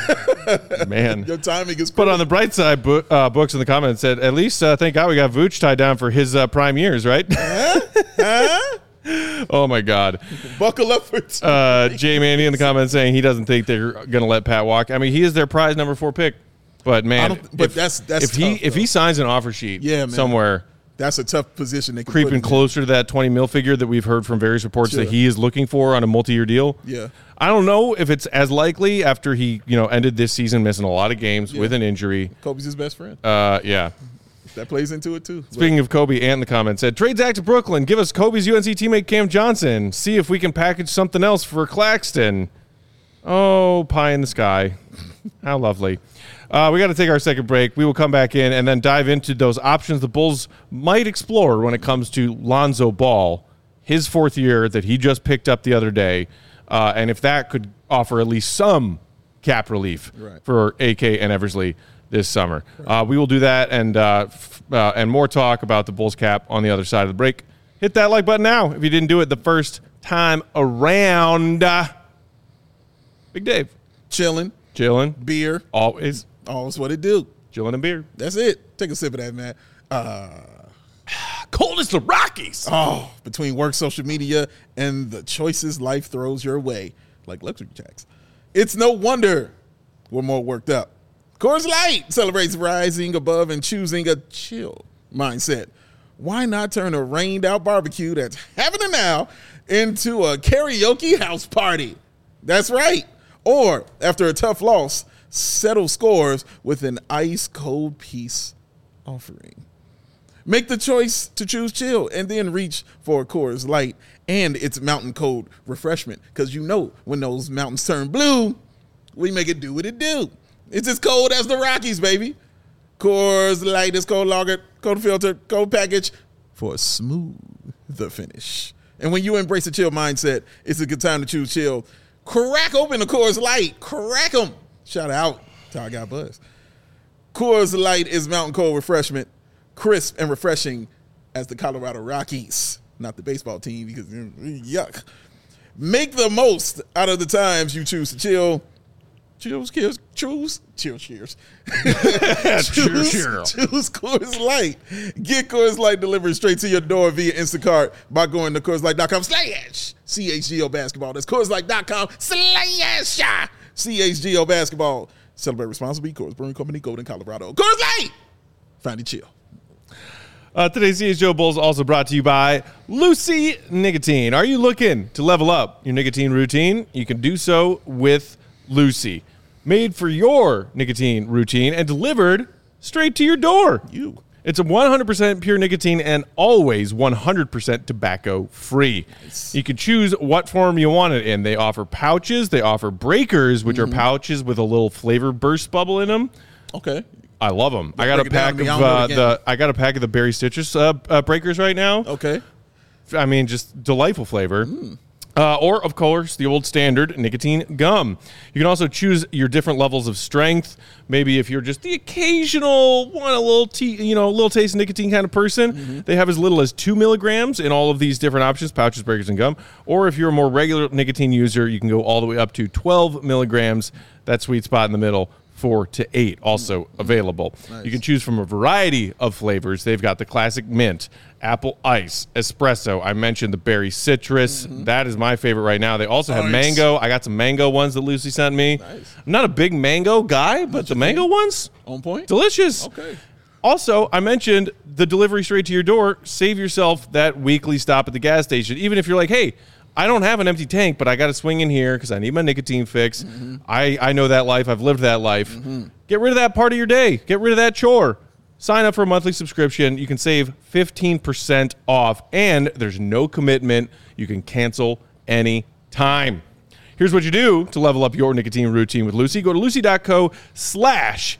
Man. Your timing is But on the bright side, bo- uh, Books in the comments said, at least uh, thank God we got Vooch tied down for his uh, prime years, right? Huh? Huh? Oh, my God. Buckle up for two uh, Jay Mandy in the comments saying he doesn't think they're going to let Pat walk. I mean, he is their prize number four pick. But man, but if, that's that's if he tough, if he signs an offer sheet yeah, man. somewhere, that's a tough position. They can creeping put closer to that twenty mil figure that we've heard from various reports sure. that he is looking for on a multi-year deal. Yeah, I don't know if it's as likely after he you know ended this season missing a lot of games yeah. with an injury. Kobe's his best friend. Uh, yeah, that plays into it too. Speaking of Kobe, Ant in the comments said, "Trade Zach to Brooklyn. Give us Kobe's U N C teammate Cam Johnson. See if we can package something else for Claxton." Oh, pie in the sky. How lovely. Uh, we got to take our second break. We will come back in and then dive into those options the Bulls might explore when it comes to Lonzo Ball, his fourth year that he just picked up the other day, uh, and if that could offer at least some cap relief right. for A K and Eversley this summer. Right. Uh, we will do that and uh, f- uh, and more talk about the Bulls cap on the other side of the break. Hit that like button now if you didn't do it the first time around. Uh, Big Dave. Chilling. Chilling. Beer. Always. Always what it do. Chilling and beer. That's it. Take a sip of that, man. Uh, Cold as the Rockies. Oh, between work, social media, and the choices life throws your way, like luxury tax. It's no wonder we're more worked up. Coors Light celebrates rising above and choosing a chill mindset. Why not turn a rained-out barbecue that's happening now into a karaoke house party? That's right. Or, after a tough loss, settle scores with an ice-cold peace offering. Make the choice to choose chill and then reach for a Coors Light and its mountain cold refreshment. Because you know when those mountains turn blue, we make it do what it do. It's as cold as the Rockies, baby. Coors Light is cold lager, cold filter, cold package for a smooth finish. And when you embrace a chill mindset, it's a good time to choose chill. Crack open a Coors Light. Crack them. Shout out to our guy Buzz. Coors Light is mountain cold refreshment, crisp and refreshing as the Colorado Rockies. Not the baseball team because yuck. Make the most out of the times you choose to chill. Choose, cheers, choose, cheers, cheers. choose, cheers, cheers. Choose Coors Light. Get Coors Light delivered straight to your door via Instacart by going to Coors Light dot com slash C H G O basketball. That's Coors Light dot com slash C H G O basketball. Celebrate responsibly. Coors Brewing Company, Golden, Colorado. Coors Light. Find it chill. Uh, today's C H G O Bulls also brought to you by Lucy Nicotine. Are you looking to level up your nicotine routine? You can do so with Lucy. Made for your nicotine routine and delivered straight to your door. You. It's a one hundred percent pure nicotine and always one hundred percent tobacco free. Nice. You can choose what form you want it in. They offer pouches. They offer breakers, which mm-hmm. are pouches with a little flavor burst bubble in them. Okay. I love them. I got a pack of uh, the I got a pack of the Berry Citrus uh, uh, breakers right now. Okay. I mean, just delightful flavor. Mm. Uh, or, of course, the old standard nicotine gum. You can also choose your different levels of strength. Maybe if you're just the occasional want a little, tea, you know, little taste of nicotine kind of person, mm-hmm. they have as little as two milligrams in all of these different options, pouches, breakers, and gum. Or if you're a more regular nicotine user, you can go all the way up to twelve milligrams. That sweet spot in the middle. Four to eight also mm-hmm. available. Nice. You can choose from a variety of flavors. They've got the classic mint, apple ice, espresso. I mentioned the berry citrus. Mm-hmm. That is my favorite right now. They also nice. have mango. I got some mango ones that Lucy sent me. Nice. I'm not a big mango guy, but the mango ones, on point, delicious. Okay. Also, I mentioned the delivery straight to your door. Save yourself that weekly stop at the gas station. Even if you're like, hey, I don't have an empty tank, but I got to swing in here because I need my nicotine fix. Mm-hmm. I, I know that life. I've lived that life. Mm-hmm. Get rid of that part of your day. Get rid of that chore. Sign up for a monthly subscription. You can save fifteen percent off, and there's no commitment. You can cancel any time. Here's what you do to level up your nicotine routine with Lucy. Go to lucy.co slash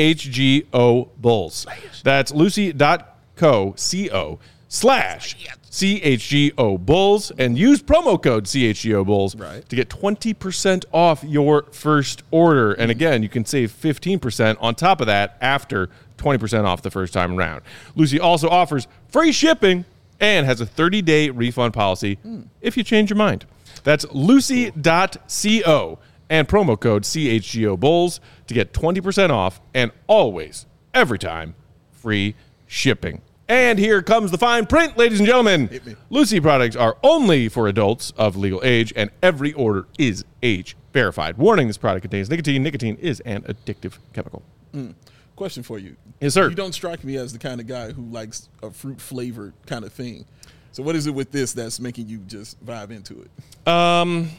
CHGO Bulls. That's lucy.co, C-O, slash C H G O Bulls, and use promo code C H G O Bulls right. to get twenty percent off your first order. And again, you can save fifteen percent on top of that after twenty percent off the first time around. Lucy also offers free shipping and has a thirty-day refund policy mm. if you change your mind. That's lucy dot co and promo code C H G O Bulls to get twenty percent off and always, every time, free shipping. And here comes the fine print, ladies and gentlemen. Lucy products are only for adults of legal age, and every order is age verified. Warning, this product contains nicotine. Nicotine is an addictive chemical. Mm. Question for you. Yes, sir. You don't strike me as the kind of guy who likes a fruit-flavored kind of thing. So what is it with this that's making you just vibe into it? Um,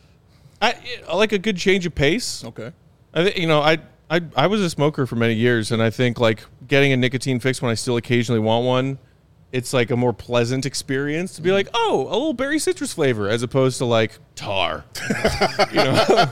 I, I like a good change of pace. Okay. I think, you know, I... I I was a smoker for many years, and I think like getting a nicotine fix when I still occasionally want one, it's like a more pleasant experience to be like, oh, a little berry citrus flavor, as opposed to like tar. You know.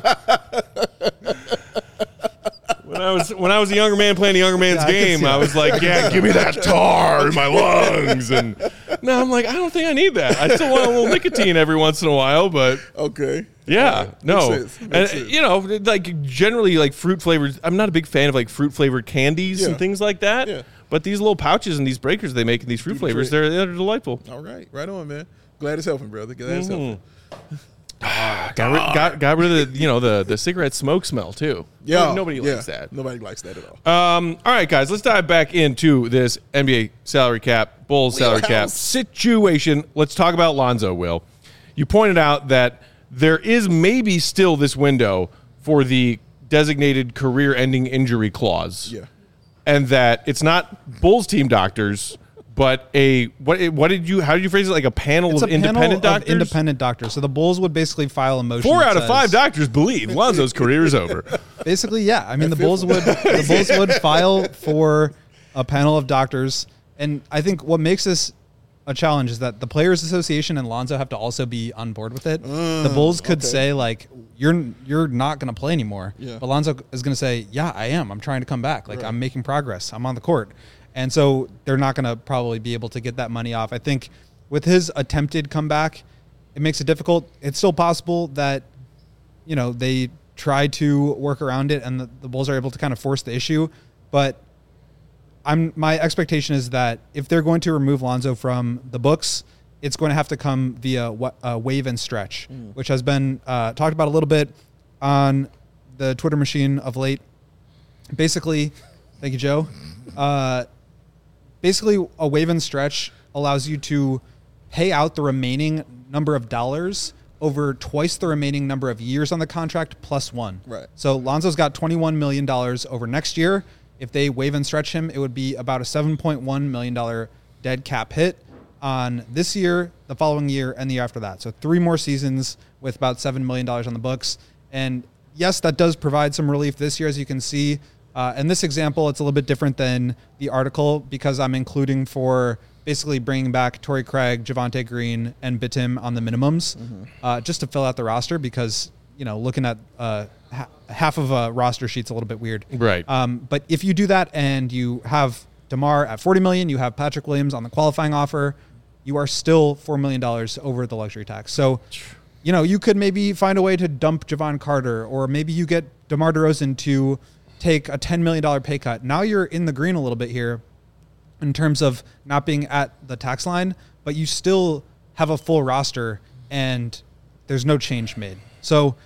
When I was when I was a younger man playing a younger man's yeah, game, I, I was like, yeah, give me that tar in my lungs. And now I'm like, I don't think I need that. I still want a little nicotine every once in a while, but okay. Yeah, okay. no, Makes sense. Makes and sense. You know, like generally, like fruit flavored. I'm not a big fan of like fruit flavored candies yeah. and things like that. Yeah. But these little pouches and these breakers they make in these fruit flavors, they're they're delightful. All right, right on, man. Glad it's helping, brother. Glad it's Mm-hmm. helping. Ah, got, rid, got got rid of the you know the the cigarette smoke smell too. Yeah, nobody yeah. likes that. Nobody likes that at all. Um, all right, guys, let's dive back into this N B A salary cap, Bulls salary cap situation. Let's talk about Lonzo. Will, you pointed out that there is maybe still this window for the designated career-ending injury clause. Yeah, and that it's not Bulls team doctors. But a what? What did you? How did you phrase it? Like a panel it's of a independent panel doctors. Of independent doctors. So the Bulls would basically file a motion. Four that out of says, five doctors believe Lonzo's career is over. Basically, yeah. I mean, the Bulls would the Bulls would file for a panel of doctors, and I think what makes this a challenge is that the Players Association and Lonzo have to also be on board with it. Uh, the Bulls could okay. say like, "You're you're not going to play anymore," yeah. but Lonzo is going to say, "Yeah, I am. I'm trying to come back. Like right. I'm making progress. I'm on the court." And so they're not going to probably be able to get that money off. I think with his attempted comeback, it makes it difficult. It's still possible that, you know, they try to work around it and the, the Bulls are able to kind of force the issue. But I'm my expectation is that if they're going to remove Lonzo from the books, it's going to have to come via uh, waive and stretch, mm. which has been uh, talked about a little bit on the Twitter machine of late. Basically, thank you, Joe. Uh, Basically, a waive and stretch allows you to pay out the remaining number of dollars over twice the remaining number of years on the contract plus one. Right. So Lonzo's got twenty-one million dollars over next year. If they waive and stretch him, it would be about a seven point one million dollars dead cap hit on this year, the following year, and the year after that. So three more seasons with about seven million dollars on the books. And yes, that does provide some relief this year, as you can see. Uh, in this example, it's a little bit different than the article because I'm including for basically bringing back Torrey Craig, Javonte Green, and Bitim on the minimums mm-hmm. uh, just to fill out the roster because, you know, looking at uh, ha- half of a roster sheet's a little bit weird. Right. Um, but if you do that and you have DeMar at forty million dollars, you have Patrick Williams on the qualifying offer, you are still four million dollars over the luxury tax. So, you know, you could maybe find a way to dump Javon Carter, or maybe you get DeMar DeRozan to take a ten million dollars pay cut. Now you're in the green a little bit here in terms of not being at the tax line, but you still have a full roster and there's no change made. So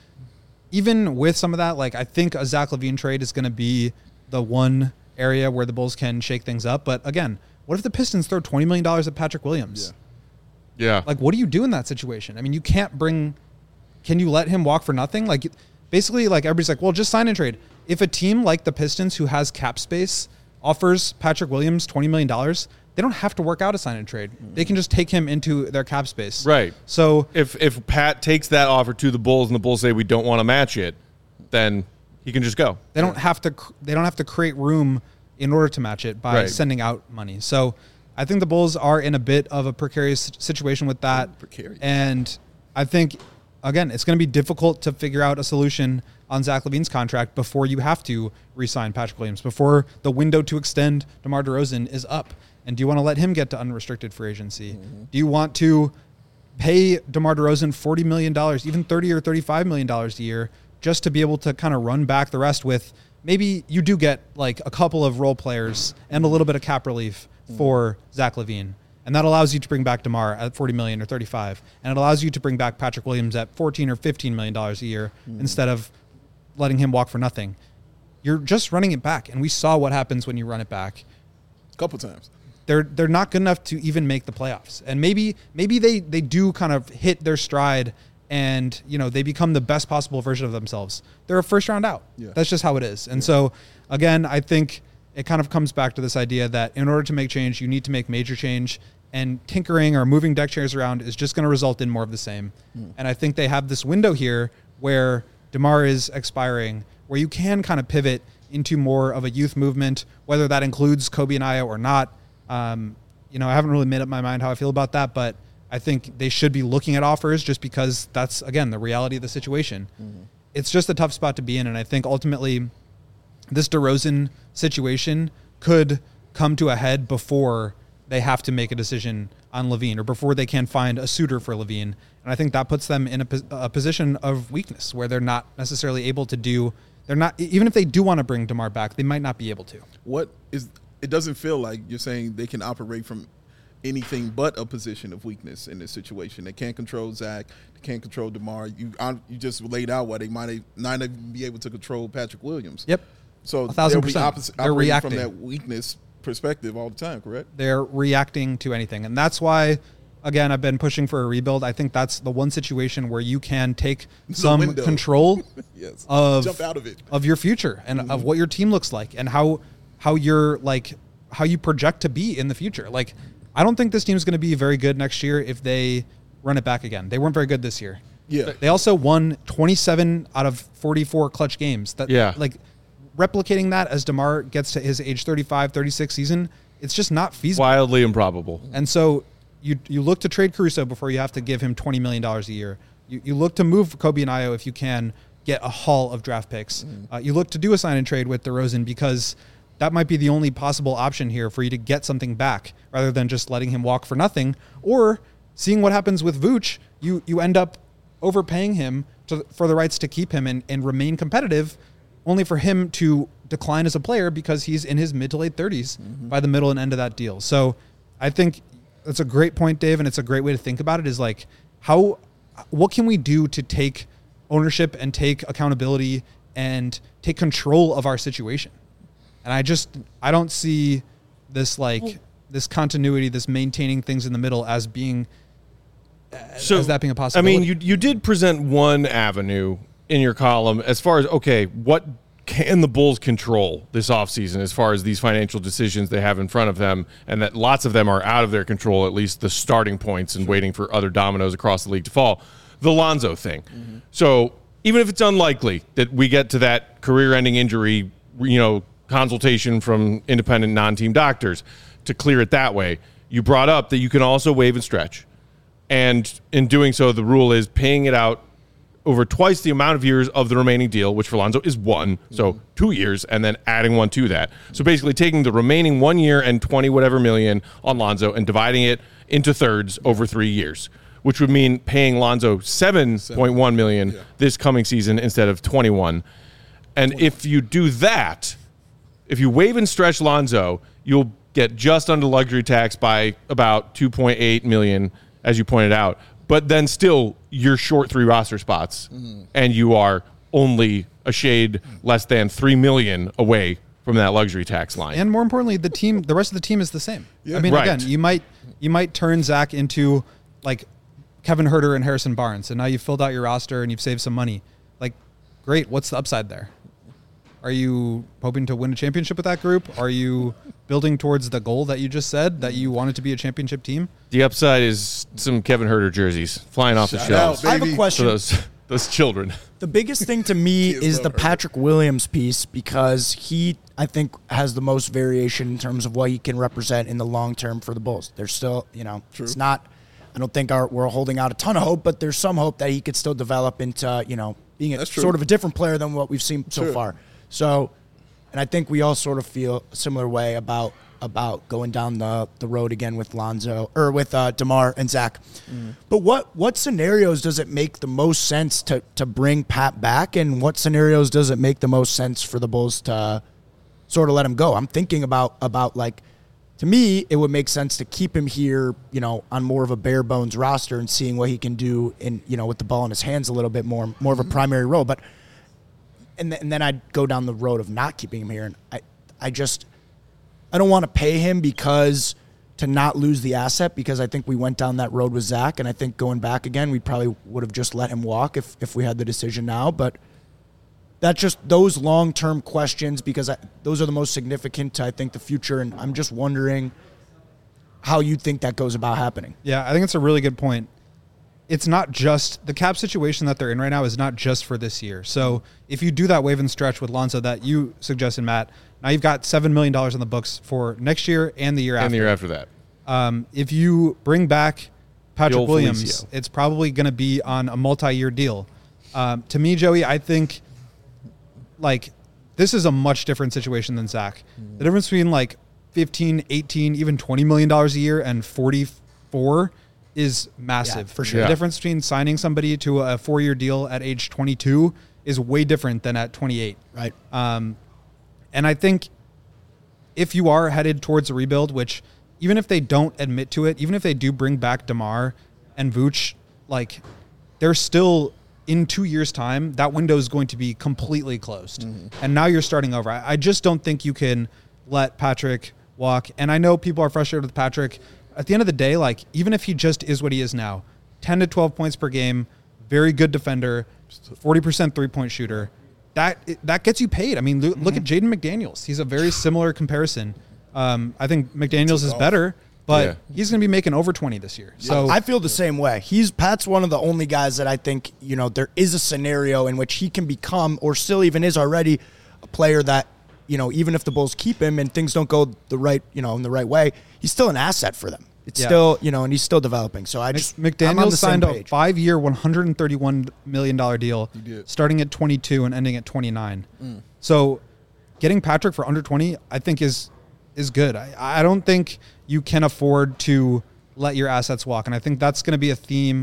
even with some of that, like I think a Zach LaVine trade is going to be the one area where the Bulls can shake things up. But again, what if the Pistons throw twenty million dollars at Patrick Williams? Yeah. yeah. Like, what do you do in that situation? I mean, you can't bring, can you let him walk for nothing? Like basically like everybody's like, well, just sign and trade. If a team like the Pistons who has cap space offers Patrick Williams twenty million dollars, they don't have to work out a sign and trade. They can just take him into their cap space. Right. So if if Pat takes that offer to the Bulls and the Bulls say we don't want to match it, then he can just go. They don't have to they don't have to create room in order to match it by Right. sending out money. So I think the Bulls are in a bit of a precarious situation with that. Precarious. And I think again, it's going to be difficult to figure out a solution on Zach LaVine's contract before you have to re-sign Patrick Williams, before the window to extend DeMar DeRozan is up. And do you want to let him get to unrestricted free agency? Mm-hmm. Do you want to pay DeMar DeRozan forty million dollars, even thirty or thirty-five million dollars a year, just to be able to kind of run back the rest with maybe you do get like a couple of role players and a little bit of cap relief mm-hmm. for Zach LaVine. And that allows you to bring back DeMar at forty million dollars or thirty-five. And it allows you to bring back Patrick Williams at fourteen or fifteen million dollars a year mm-hmm. instead of letting him walk for nothing. You're just running it back. And we saw what happens when you run it back. A couple times. They're they're not good enough to even make the playoffs. And maybe maybe they, they do kind of hit their stride and, you know, they become the best possible version of themselves. They're a first round out. Yeah. That's just how it is. And yeah. so, again, I think it kind of comes back to this idea that in order to make change, you need to make major change. And tinkering or moving deck chairs around is just going to result in more of the same. Mm. And I think they have this window here where DeMar is expiring, where you can kind of pivot into more of a youth movement, whether that includes Kobe and Ayo or not. Um, you know, I haven't really made up my mind how I feel about that, but I think they should be looking at offers just because that's, again, the reality of the situation. Mm-hmm. It's just a tough spot to be in, and I think ultimately this DeRozan situation could come to a head before they have to make a decision on LaVine or before they can find a suitor for LaVine. And I think that puts them in a, a position of weakness where they're not necessarily able to do, they're not, even if they do want to bring DeMar back, they might not be able to. What is, it doesn't feel like you're saying they can operate from anything but a position of weakness in this situation. They can't control Zach. They can't control DeMar. You you just laid out why they might not even be able to control Patrick Williams. Yep. So a thousand they'll be percent. opposite, They're operating reacting from that weakness perspective all the time, correct? They're reacting to anything. And that's why, again, I've been pushing for a rebuild. I think that's the one situation where you can take some window. control yes. of, Jump out of it. of your future and mm-hmm. of what your team looks like and how how you're like how you project to be in the future. Like, I don't think this team is going to be very good next year if they run it back again. They weren't very good this year. Yeah. They also won twenty-seven out of forty-four clutch games. That yeah. like replicating that as DeMar gets to his age thirty-five, thirty-six season, it's just not feasible. Wildly improbable. And so you you look to trade Caruso before you have to give him twenty million dollars a year. You you look to move Kobe and Ayo if you can get a haul of draft picks. Mm. Uh, you look to do a sign and trade with DeRozan because that might be the only possible option here for you to get something back rather than just letting him walk for nothing. Or seeing what happens with Vooch, you you end up overpaying him to, for the rights to keep him and, and remain competitive, only for him to decline as a player because he's in his mid to late thirties mm-hmm. by the middle and end of that deal. So I think that's a great point, Dave, and it's a great way to think about it is like, how, what can we do to take ownership and take accountability and take control of our situation? And I just, I don't see this like, well, this continuity, this maintaining things in the middle as being, so, as that being a possibility. I mean, you you did present one avenue in your column as far as, okay, what can the Bulls control this offseason as far as these financial decisions they have in front of them, and that lots of them are out of their control, at least the starting points, and waiting for other dominoes across the league to fall. The Lonzo thing. Mm-hmm. So even if it's unlikely that we get to that career-ending injury, you know, consultation from independent non-team doctors to clear it that way, you brought up that you can also waive and stretch. And in doing so, the rule is paying it out over twice the amount of years of the remaining deal, which for Lonzo is one, so mm-hmm. two years, and then adding one to that. So basically taking the remaining one year and twenty whatever million on Lonzo and dividing it into thirds over three years, which would mean paying Lonzo seven point one million dollars yeah. this coming season instead of twenty-one. And if you do that, if you waive and stretch Lonzo, you'll get just under luxury tax by about two point eight million dollars, as you pointed out. But then still, you're short three roster spots, mm-hmm. and you are only a shade less than three million dollars away from that luxury tax line. And more importantly, the team, the rest of the team is the same. Yeah. I mean, Right. again, you might you might turn Zach into like Kevin Huerter and Harrison Barnes, and now you've filled out your roster and you've saved some money. Like, great. What's the upside there? Are you hoping to win a championship with that group? Are you building towards the goal that you just said, that you wanted to be a championship team? The upside is some Kevin Huerter jerseys flying off the Shout shelves out, I have a baby. for question. those those children. The biggest thing to me Kids is love the her. Patrick Williams piece because he, I think, has the most variation in terms of what he can represent in the long term for the Bulls. There's still, you know, True. it's not. I don't think our, we're holding out a ton of hope, but there's some hope that he could still develop into, you know, being a, That's true. sort of a different player than what we've seen so True. far. So, and I think we all sort of feel a similar way about about going down the, the road again with Lonzo or with uh, DeMar and Zach. Mm. But what what scenarios does it make the most sense to to bring Pat back, and what scenarios does it make the most sense for the Bulls to sort of let him go? I'm thinking about about like, to me, it would make sense to keep him here, you know, on more of a bare bones roster and seeing what he can do in, you know, with the ball in his hands a little bit more, more of a primary role. But and th- and then I'd go down the road of not keeping him here, and I I just. I don't want to pay him because to not lose the asset, because I think we went down that road with Zach, and I think going back again, we probably would have just let him walk if, if we had the decision now. But that's just those long-term questions, because I, those are the most significant to, I think, the future, and I'm just wondering how you think that goes about happening. Yeah, I think it's a really good point. It's not just the cap situation that they're in right now is not just for this year. So if you do that wave and stretch with Lonzo that you suggested, Matt, now you've got seven million dollars on the books for next year and the year And after. the year after that. Um, if you bring back Patrick old Williams, Felicio. it's probably going to be on a multi-year deal. Um, to me, Joey, I think like this is a much different situation than Zach. The difference between like fifteen, eighteen, even twenty million dollars a year and forty-four is massive. Yeah, for sure. The Yeah. difference between signing somebody to a four-year deal at age twenty-two is way different than at twenty-eight. Right. Um, and I think if you are headed towards a rebuild, which even if they don't admit to it, even if they do bring back DeMar and Vooch, like they're still in two years' time, that window is going to be completely closed. Mm-hmm. And now you're starting over. I, I just don't think you can let Patrick walk. And I know people are frustrated with Patrick. At the end of the day, like even if he just is what he is now, ten to twelve points per game, very good defender, forty percent three-point shooter, that that gets you paid. I mean, look, look at Jaden McDaniels. He's a very similar comparison. Um, I think McDaniels is better, but Yeah. he's going to be making over twenty this year. So I feel the same way. He's Pat's one of the only guys that I think, you know, there is a scenario in which he can become, or still even is already, a player that, you know, even if the Bulls keep him and things don't go the right, you know, in the right way, he's still an asset for them. It's Yeah. still, you know, and he's still developing. So I just I'm on McDaniels the same signed a page. five-year, one hundred thirty-one million dollars deal, did. starting at twenty-two and ending at twenty-nine. Mm. So getting Patrick for under twenty, I think, is is good. I, I don't think you can afford to let your assets walk. And I think that's going to be a theme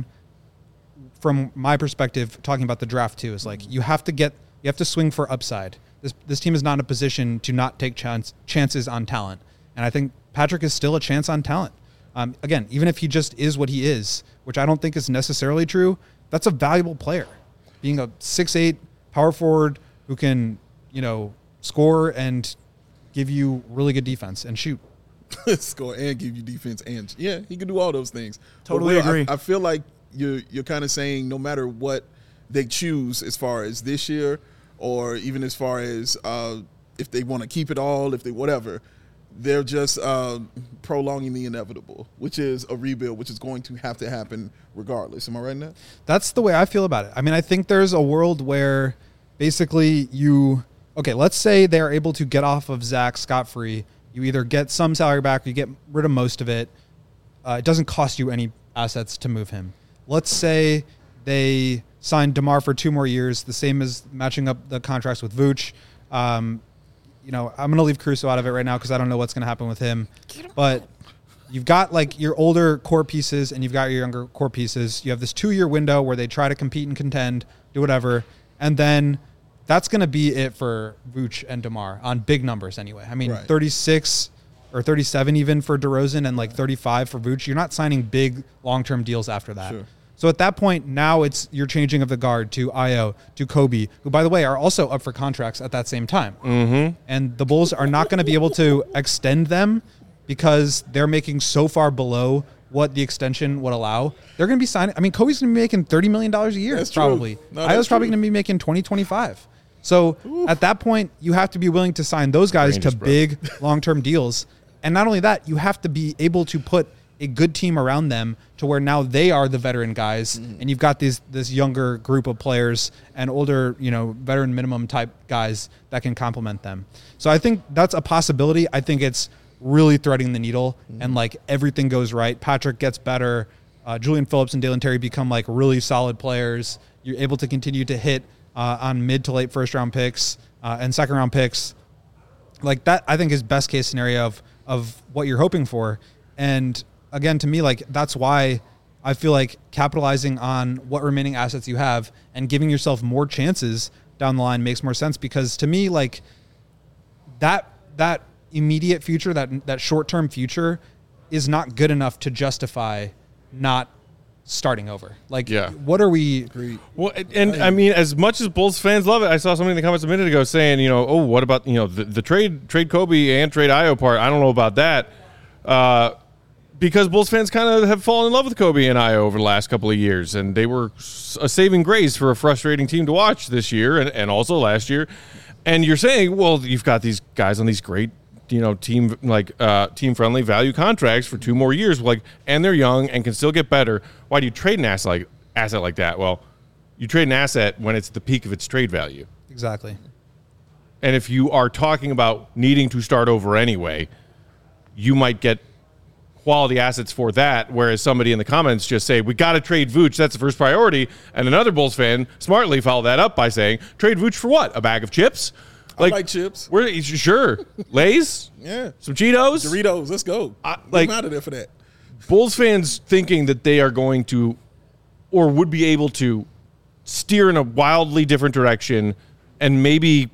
from my perspective, talking about the draft too, is like you have to get, you have to swing for upside. This this team is not in a position to not take chance, chances on talent. And I think Patrick is still a chance on talent. Um, again, even if he just is what he is, which I don't think is necessarily true, that's a valuable player. Being a six eight power forward who can, you know, score and give you really good defense and shoot. Score and give you defense, and yeah, he can do all those things. Totally But Will, agree. I, I feel like you're you're kind of saying no matter what they choose as far as this year, or even as far as uh, if they want to keep it all, if they whatever, they're just uh, prolonging the inevitable, which is a rebuild, which is going to have to happen regardless. Am I right in that? That's the way I feel about it. I mean, I think there's a world where basically you, okay, let's say they're able to get off of Zach scot-free. You either get some salary back or you get rid of most of it. Uh, it doesn't cost you any assets to move him. Let's say they sign DeMar for two more years, the same as matching up the contracts with Vooch. Um, you know, I'm going to leave Caruso out of it right now because I don't know what's going to happen with him. But you've got like your older core pieces and you've got your younger core pieces. You have this two-year window where they try to compete and contend, do whatever, and then that's going to be it for Vooch and DeMar on big numbers anyway. I mean, Right. thirty-six or thirty-seven even for DeRozan and like thirty-five for Vooch. You're not signing big long-term deals after that. Sure. So at that point, now it's you're changing of the guard to Io, to Kobe, who, by the way, are also up for contracts at that same time. Mm-hmm. And the Bulls are not going to be able to extend them because they're making so far below what the extension would allow. They're going to be signing. I mean, Kobe's going to be making thirty million dollars a year, That's true. probably. No, Io's that's probably true. going to be making twenty, twenty-five. So at that point, you have to be willing to sign those guys Range to is broke. big long-term deals. And not only that, you have to be able to put a good team around them to where now they are the veteran guys, Mm-hmm. and you've got this this younger group of players and older, you know, veteran minimum type guys that can complement them. So I think that's a possibility. I think it's really threading the needle, Mm-hmm. and like everything goes right. Patrick gets better. Uh, Julian Phillips and Dalen Terry become like really solid players. You're able to continue to hit uh, on mid to late first round picks uh, and second round picks. Like that, I think is best case scenario of of what you're hoping for. And again, to me, like that's why I feel like capitalizing on what remaining assets you have and giving yourself more chances down the line makes more sense. Because to me, like that that immediate future, that that short term future, is not good enough to justify not starting over. Like, Yeah. what are we? Well, and, and I mean, as much as Bulls fans love it, I saw something in the comments a minute ago saying, you know, oh, what about, you know, the, the trade trade Kobe and trade Io part? I don't know about that. Uh, because Bulls fans kind of have fallen in love with Kobe and Io over the last couple of years, and they were a saving grace for a frustrating team to watch this year and, and also last year. And you're saying, well, you've got these guys on these great, you know, team like uh, team friendly value contracts for two more years, like, and they're young and can still get better. Why do you trade an asset like asset like that? Well, you trade an asset when it's the peak of its trade value. Exactly. And if you are talking about needing to start over anyway, you might get quality assets for that, whereas somebody in the comments just say, we got to trade Vooch, that's the first priority. And another Bulls fan smartly followed that up by saying, trade Vooch for what? A bag of chips? I like chips. We're, sure. Lay's? Yeah. Some Cheetos? Doritos, let's go. I- Like, like- I'm out of there for that. Bulls fans thinking that they are going to or would be able to steer in a wildly different direction and maybe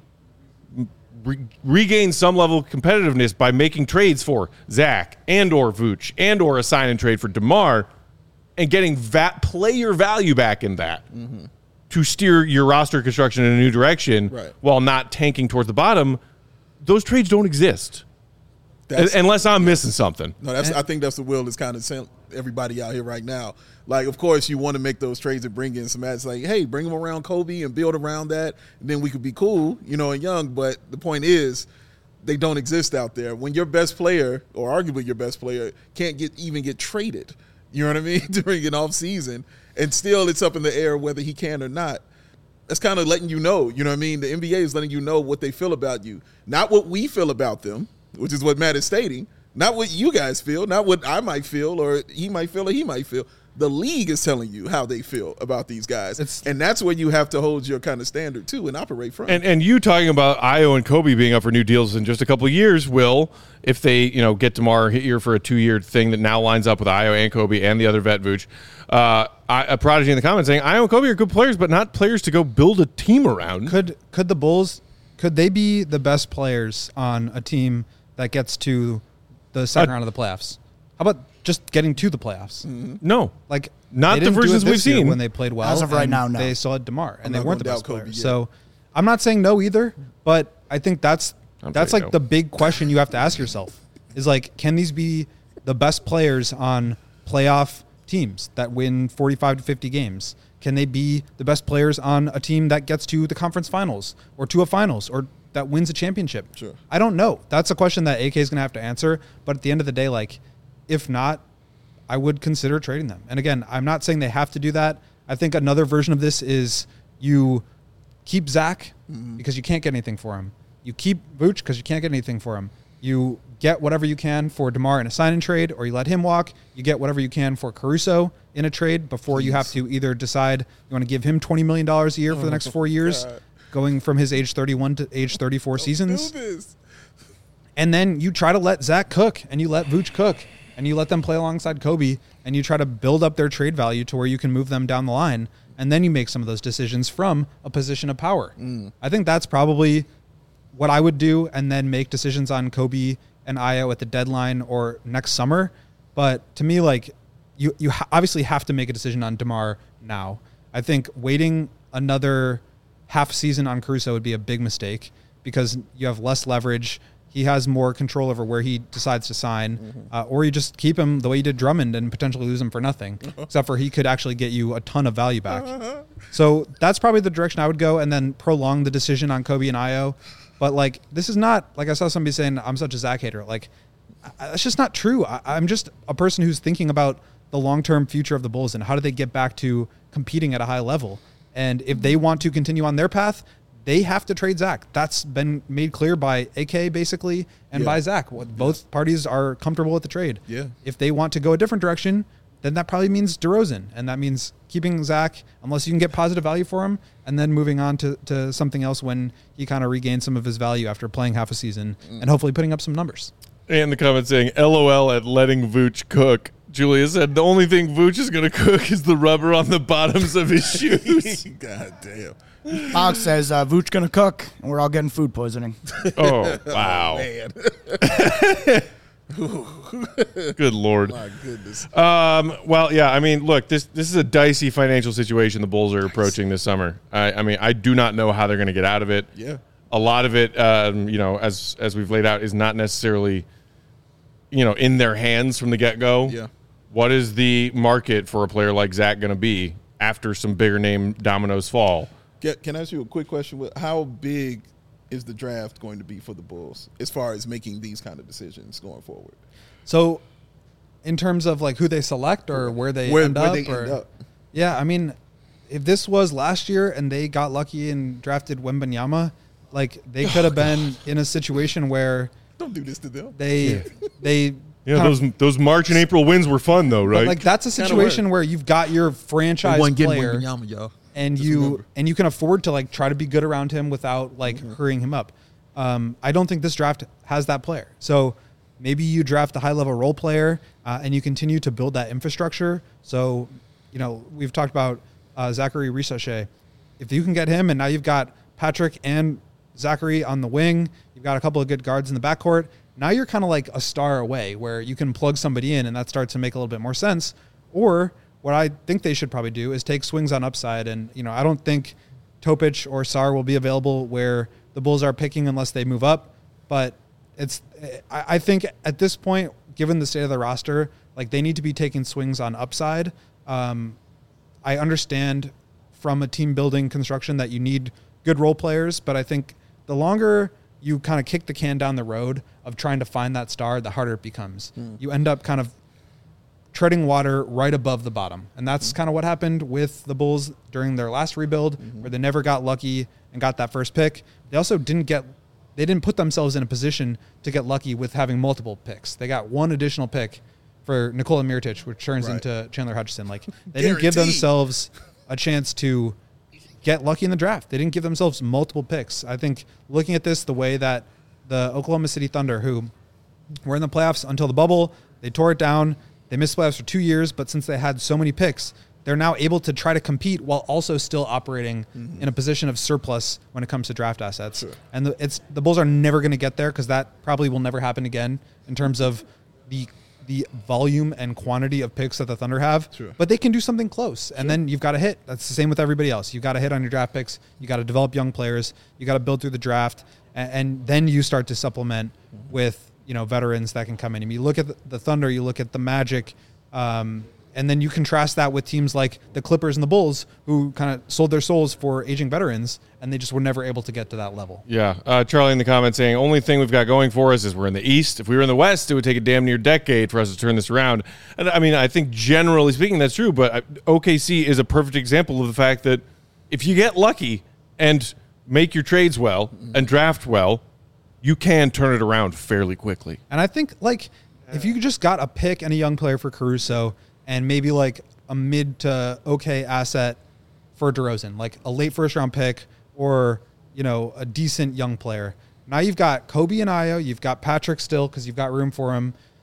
re- regain some level of competitiveness by making trades for Zach and or Vooch and or a sign and trade for DeMar and getting va- player value back in that Mm-hmm. to steer your roster construction in a new direction Right. while not tanking towards the bottom. Those trades don't exist. That's, Unless I'm missing something. no, that's. I think that's the will that's kind of sent everybody out here right now. Like, of course, you want to make those trades and bring in some ads. Like, hey, bring them around Kobe and build around that, and then we could be cool, you know, and young. But the point is, they don't exist out there. When your best player, or arguably your best player, can't get even get traded, you know what I mean, during an off season, and still it's up in the air whether he can or not. That's kind of letting you know, you know what I mean? The N B A is letting you know what they feel about you, not what we feel about them, which is what Matt is stating, not what you guys feel, not what I might feel or he might feel or he might feel. The league is telling you how they feel about these guys. It's- and that's where you have to hold your kind of standard, too, and operate from. And and you talking about Io and Kobe being up for new deals in just a couple of years, Will, if they, you know, get DeMar here for a two-year thing that now lines up with Io and Kobe and the other vet Vooch. Uh, I, a prodigy in the comments saying, Io and Kobe are good players, but not players to go build a team around. Could could the Bulls could they be the best players on a team that gets to the second Uh, round of the playoffs? How about just getting to the playoffs? No. Like Not they the didn't do it versions this we've year seen. when they played well. As of right and now, no. They still had DeMar, and I'm they not weren't the gonna best doubt Kobe players. yet. So I'm not saying no either, but I think that's I'm that's saying like no. the big question you have to ask yourself is like, can these be the best players on playoff teams that win forty-five to fifty games? Can they be the best players on a team that gets to the conference finals or to a finals or that wins a championship? Sure. I don't know. That's a question that A K is going to have to answer. But at the end of the day, like, if not, I would consider trading them. And again, I'm not saying they have to do that. I think another version of this is you keep Zach because you can't get anything for him. You keep Vooch because you can't get anything for him. You get whatever you can for DeMar in a sign and trade, or you let him walk. You get whatever you can for Caruso in a trade before you have to either decide you want to give him twenty million dollars a year for the next four years, God. going from his age thirty-one to age thirty-four seasons. Do this. And then you try to let Zach cook and you let Vooch cook. and you let them play alongside Kobe, and you try to build up their trade value to where you can move them down the line, and then you make some of those decisions from a position of power. Mm. I think that's probably what I would do, and then make decisions on Kobe and Ayo at the deadline or next summer. But to me, like, you, you ha- obviously have to make a decision on DeMar now. I think waiting another half season on Caruso would be a big mistake because you have less leverage. He has more control over where he decides to sign, mm-hmm. uh, or you just keep him the way you did Drummond and potentially lose him for nothing, except for he could actually get you a ton of value back. So that's probably the direction I would go, and then prolong the decision on Kobe and Ayo. But like, this is not, like I saw somebody saying, I'm such a Zach hater. Like, that's just not true. I, I'm just a person who's thinking about the long-term future of the Bulls and how do they get back to competing at a high level. And if they want to continue on their path, they have to trade Zach. That's been made clear by A K basically and yeah. by Zach. Both yeah. parties are comfortable with the trade. Yeah. If they want to go a different direction, then that probably means DeRozan. And that means keeping Zach unless you can get positive value for him, and then moving on to, to something else when he kind of regains some of his value after playing half a season mm. and hopefully putting up some numbers. And the comment saying, L O L at letting Vooch cook. Julia said the only thing Vooch is going to cook is the rubber on the bottoms of his shoes. God damn. Alex says uh, Vooch going to cook, and we're all getting food poisoning. Oh, wow. Oh, man. Good Lord. My goodness. Um, well, yeah, I mean, look, this this is a dicey financial situation the Bulls are approaching this summer. I, I mean, I do not know how they're going to get out of it. Yeah. A lot of it, um, you know, as as we've laid out, is not necessarily, you know, in their hands from the get-go. Yeah. What is the market for a player like Zach going to be after some bigger name dominoes fall? Get, can I ask you a quick question? How big is the draft going to be for the Bulls as far as making these kind of decisions going forward? So in terms of like who they select or where they where, end where up? They or, end up. Yeah, I mean, if this was last year and they got lucky and drafted Wembanyama, like they could have oh, been God. in a situation where don't do this to them. They yeah. they Yeah, those of, those March and April wins were fun though, right? Like that's a situation where you've got your franchise player Wembanyama, y'all. and Just you remember. and you can afford to like try to be good around him without like Mm-hmm. hurrying him up. Um, I don't think this draft has that player. So maybe you draft a high level role player uh, and you continue to build that infrastructure. So, you know, we've talked about uh, Zachary Risachet. If you can get him and now you've got Patrick and Zachary on the wing, you've got a couple of good guards in the backcourt. Now you're kind of like a star away where you can plug somebody in and that starts to make a little bit more sense. Or what I think they should probably do is take swings on upside. And, you know, I don't think Topic or Sarr will be available where the Bulls are picking unless they move up. But it's, I, I think at this point, given the state of the roster, like they need to be taking swings on upside. Um, I understand from a team building construction that you need good role players, but I think the longer you kind of kick the can down the road of trying to find that star, the harder it becomes. Mm. You end up kind of treading water right above the bottom. And that's mm. kind of what happened with the Bulls during their last rebuild, mm-hmm. where they never got lucky and got that first pick. They also didn't get, they didn't put themselves in a position to get lucky with having multiple picks. They got one additional pick for Nikola Mirotic, which turns right. into Chandler Hutchison. Like they didn't give themselves a chance to get lucky in the draft. They didn't give themselves multiple picks. I think looking at this the way that the Oklahoma City Thunder, who were in the playoffs until the bubble, they tore it down. They missed playoffs for two years, but since they had so many picks, they're now able to try to compete while also still operating mm-hmm. in a position of surplus when it comes to draft assets. Sure. And the, it's the Bulls are never going to get there because that probably will never happen again in terms of the the volume and quantity of picks that the Thunder have, sure. but they can do something close. And sure. then you've got to hit. That's the same with everybody else. You've got to hit on your draft picks. You got to develop young players. You got to build through the draft. And, and then you start to supplement mm-hmm. with, you know, veterans that can come in. I mean, you look at the, the Thunder, you look at the Magic, um, and then you contrast that with teams like the Clippers and the Bulls, who kind of sold their souls for aging veterans, and they just were never able to get to that level. Yeah. Uh, Charlie in the comments saying, only thing we've got going for us is we're in the East. If we were in the West, it would take a damn near decade for us to turn this around. And I mean, I think generally speaking, that's true, but O K C is a perfect example of the fact that if you get lucky and make your trades well and draft well, you can turn it around fairly quickly. And I think, like, if you just got a pick and a young player for Caruso, and maybe like a mid to okay asset for DeRozan, like a late first round pick or, you know, a decent young player. Now you've got Kobe and Ayo, you've got Patrick still because you've got room for him.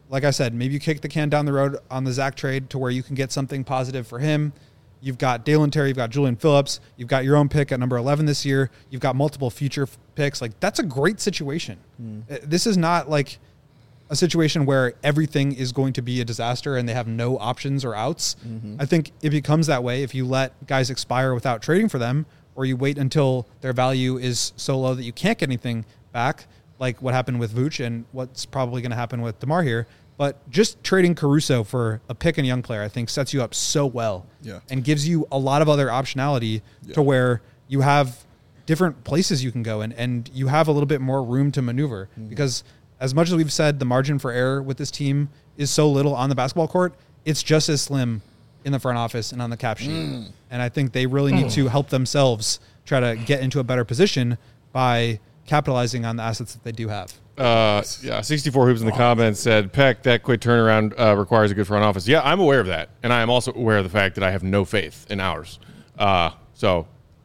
like I said, maybe you kick the can down the road on the Zach trade to where you can get something positive for him. You've got Dalen Terry, you've got Julian Phillips, you've got your own pick at number eleven this year. You've got multiple future f- picks. Like, that's a great situation. Mm. Uh, This is not like a situation where everything is going to be a disaster and they have no options or outs. Mm-hmm. I think it becomes that way if you let guys expire without trading for them, or you wait until their value is so low that you can't get anything back, like what happened with Vooch and what's probably going to happen with DeMar here. But just trading Caruso for a pick and young player, I think, sets you up so well, Yeah. and gives you a lot of other optionality Yeah. to where you have different places you can go in, and you have a little bit more room to maneuver. Mm-hmm. Because as much as we've said the margin for error with this team is so little on the basketball court, it's just as slim in the front office and on the cap sheet. Mm. And I think they really need to help themselves try to get into a better position by capitalizing on the assets that they do have. Uh, yeah, sixty-four Hoops in the comments said, Peck, that quick turnaround uh, requires a good front office. Yeah, I'm aware of that. And I am also aware of the fact that I have no faith in ours. Uh, so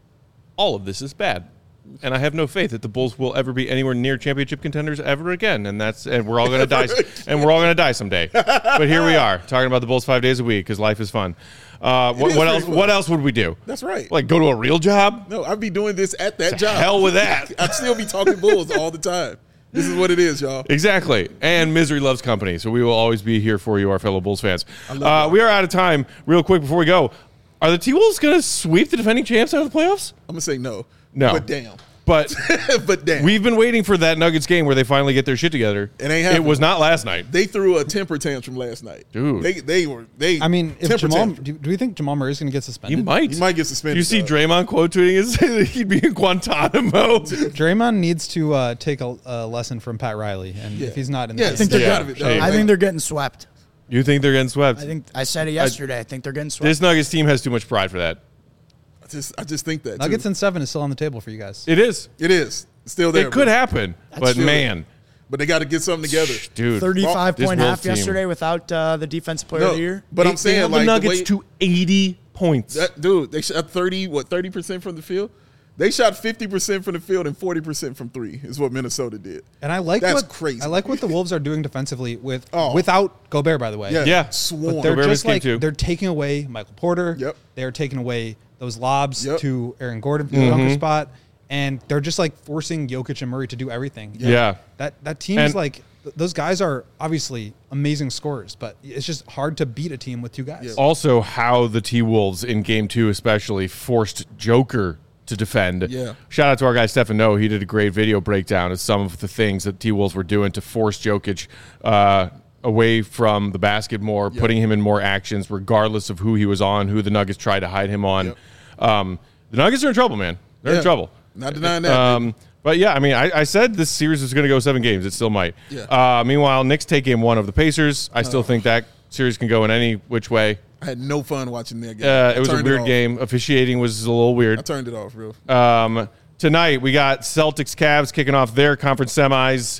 all of this is bad. And I have no faith that the Bulls will ever be anywhere near championship contenders ever again. And that's and we're all going to die. And we're all going to die someday. But here we are talking about the Bulls five days a week because life is fun. Uh, what is what pretty else? fun. What else would we do? That's right. Like go to a real job? No, I'd be doing this at that To job. hell with that. I'd still be talking Bulls all the time. This is what it is, y'all. Exactly. And misery loves company. So we will always be here for you, our fellow Bulls fans. love Uh, that. we are out of time. Real quick before we go, are the T-Wolves going to sweep the defending champs out of the playoffs? I'm gonna say no. No. But damn. But but damn. we've been waiting for that Nuggets game where they finally get their shit together. It ain't It happening. was not last night. They threw a temper tantrum last night. Dude. They they were they I mean, if temper Jamal, tantrum. do, do we think Jamal Murray is going to get He suspended? might. He might get suspended. You see though. Draymond quote tweeting and say that he'd be in Guantanamo. Draymond needs to uh, take a, a lesson from Pat Riley, and Yeah. if he's not in Yeah, the stay Yeah. out of it. though. Shame. I think they're getting swept. You think they're getting swept? I think I said it yesterday. I, think they're getting swept. This Nuggets team has too much pride for that. I just I just think that Nuggets too. in seven is still on the table for you guys. It is. It is It's still there. It could but, happen. But still man, but they got to get something together. dude. thirty-five This point Wolves half team. yesterday without uh, the defensive player No, of the year. but They- I'm they saying held like the the Nuggets way- to eighty points. That, dude, they shot thirty, what, thirty percent from the field? They shot fifty percent from the field and forty percent from three is what Minnesota did. And I like That's what crazy. I like what the Wolves are doing defensively with Oh. without Gobert, by the way. Yeah. Yeah. Swarm. But they're Gobert just came like too. they're taking away Michael Porter. Yep. They're taking away those lobs Yep. to Aaron Gordon for Mm-hmm. the dunker spot, and they're just like forcing Jokic and Murray to do everything. Yeah. That that team And- is like th- those guys are obviously amazing scorers, but it's just hard to beat a team with two guys. Yeah. Also, how the T-Wolves in game two especially forced Joker to defend. Yeah. Shout out to our guy Stefan Noe. He did a great video breakdown of some of the things that T-Wolves were doing to force Jokic uh, away from the basket more, putting him in more actions regardless of who he was on, who the Nuggets tried to hide him on. Yep. Um, the Nuggets are in trouble, man. They're Yeah. in trouble. Not denying that. Um, but yeah, I mean, I, I said this series was going to go seven games. It still might. Yeah. Uh, meanwhile, Knicks take game one of the Pacers. I still think that series can go in any which way. I had no fun watching that game. Uh, I it was a turned weird off. game. Officiating was a little I weird. turned it off, real. Um, tonight we got Celtics Cavs kicking off their conference semis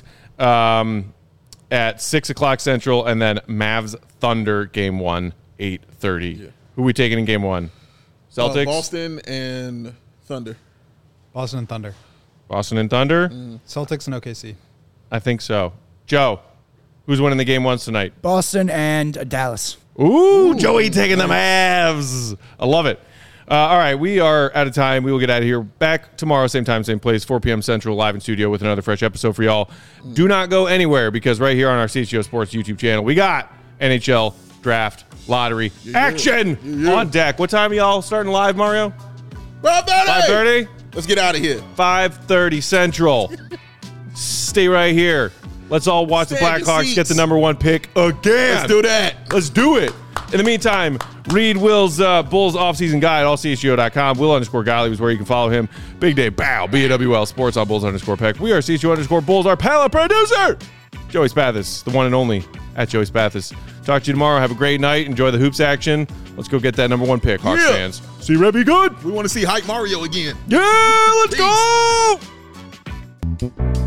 um, at six o'clock Central, and then Mavs Thunder game one eight thirty. Yeah. Who we taking in game one? Uh, Celtics, Boston and Thunder. Boston and Thunder, Boston and Thunder. Celtics and O K C. I think so. Joe, who's winning the game ones tonight? Boston and uh, Dallas. Ooh, Joey taking the Mavs. I love it. Uh, all right, we are out of time. We will get out of here. Back tomorrow, same time, same place, four p.m. Central, live in studio with another fresh episode for y'all. Do not go anywhere because right here on our C H G O Sports YouTube channel, we got N H L Draft Lottery action Yeah, yeah. on deck. What time are y'all starting live, Mario? five thirty. five thirty? Let's get out of here. five thirty Central. Stay right here. Let's all watch Stay the in your Blackhawks get the seats. number one pick again. Let's do that. Let's do it. In the meantime, read Will's uh, Bulls offseason guide, all C H G O dot com. Will underscore Golly is where you can follow him. Big Day Bow, B A W L Sports on Bulls underscore Peck. We are C H G O underscore Bulls, our palette producer. Joey Spathis, the one and only at Joey Spathis. Talk to you tomorrow. Have a great night. Enjoy the hoops action. Let's go get that number one pick, Hawks Yeah. fans. See Red be good. We want to see Hype Mario again. Yeah, let's Peace. go.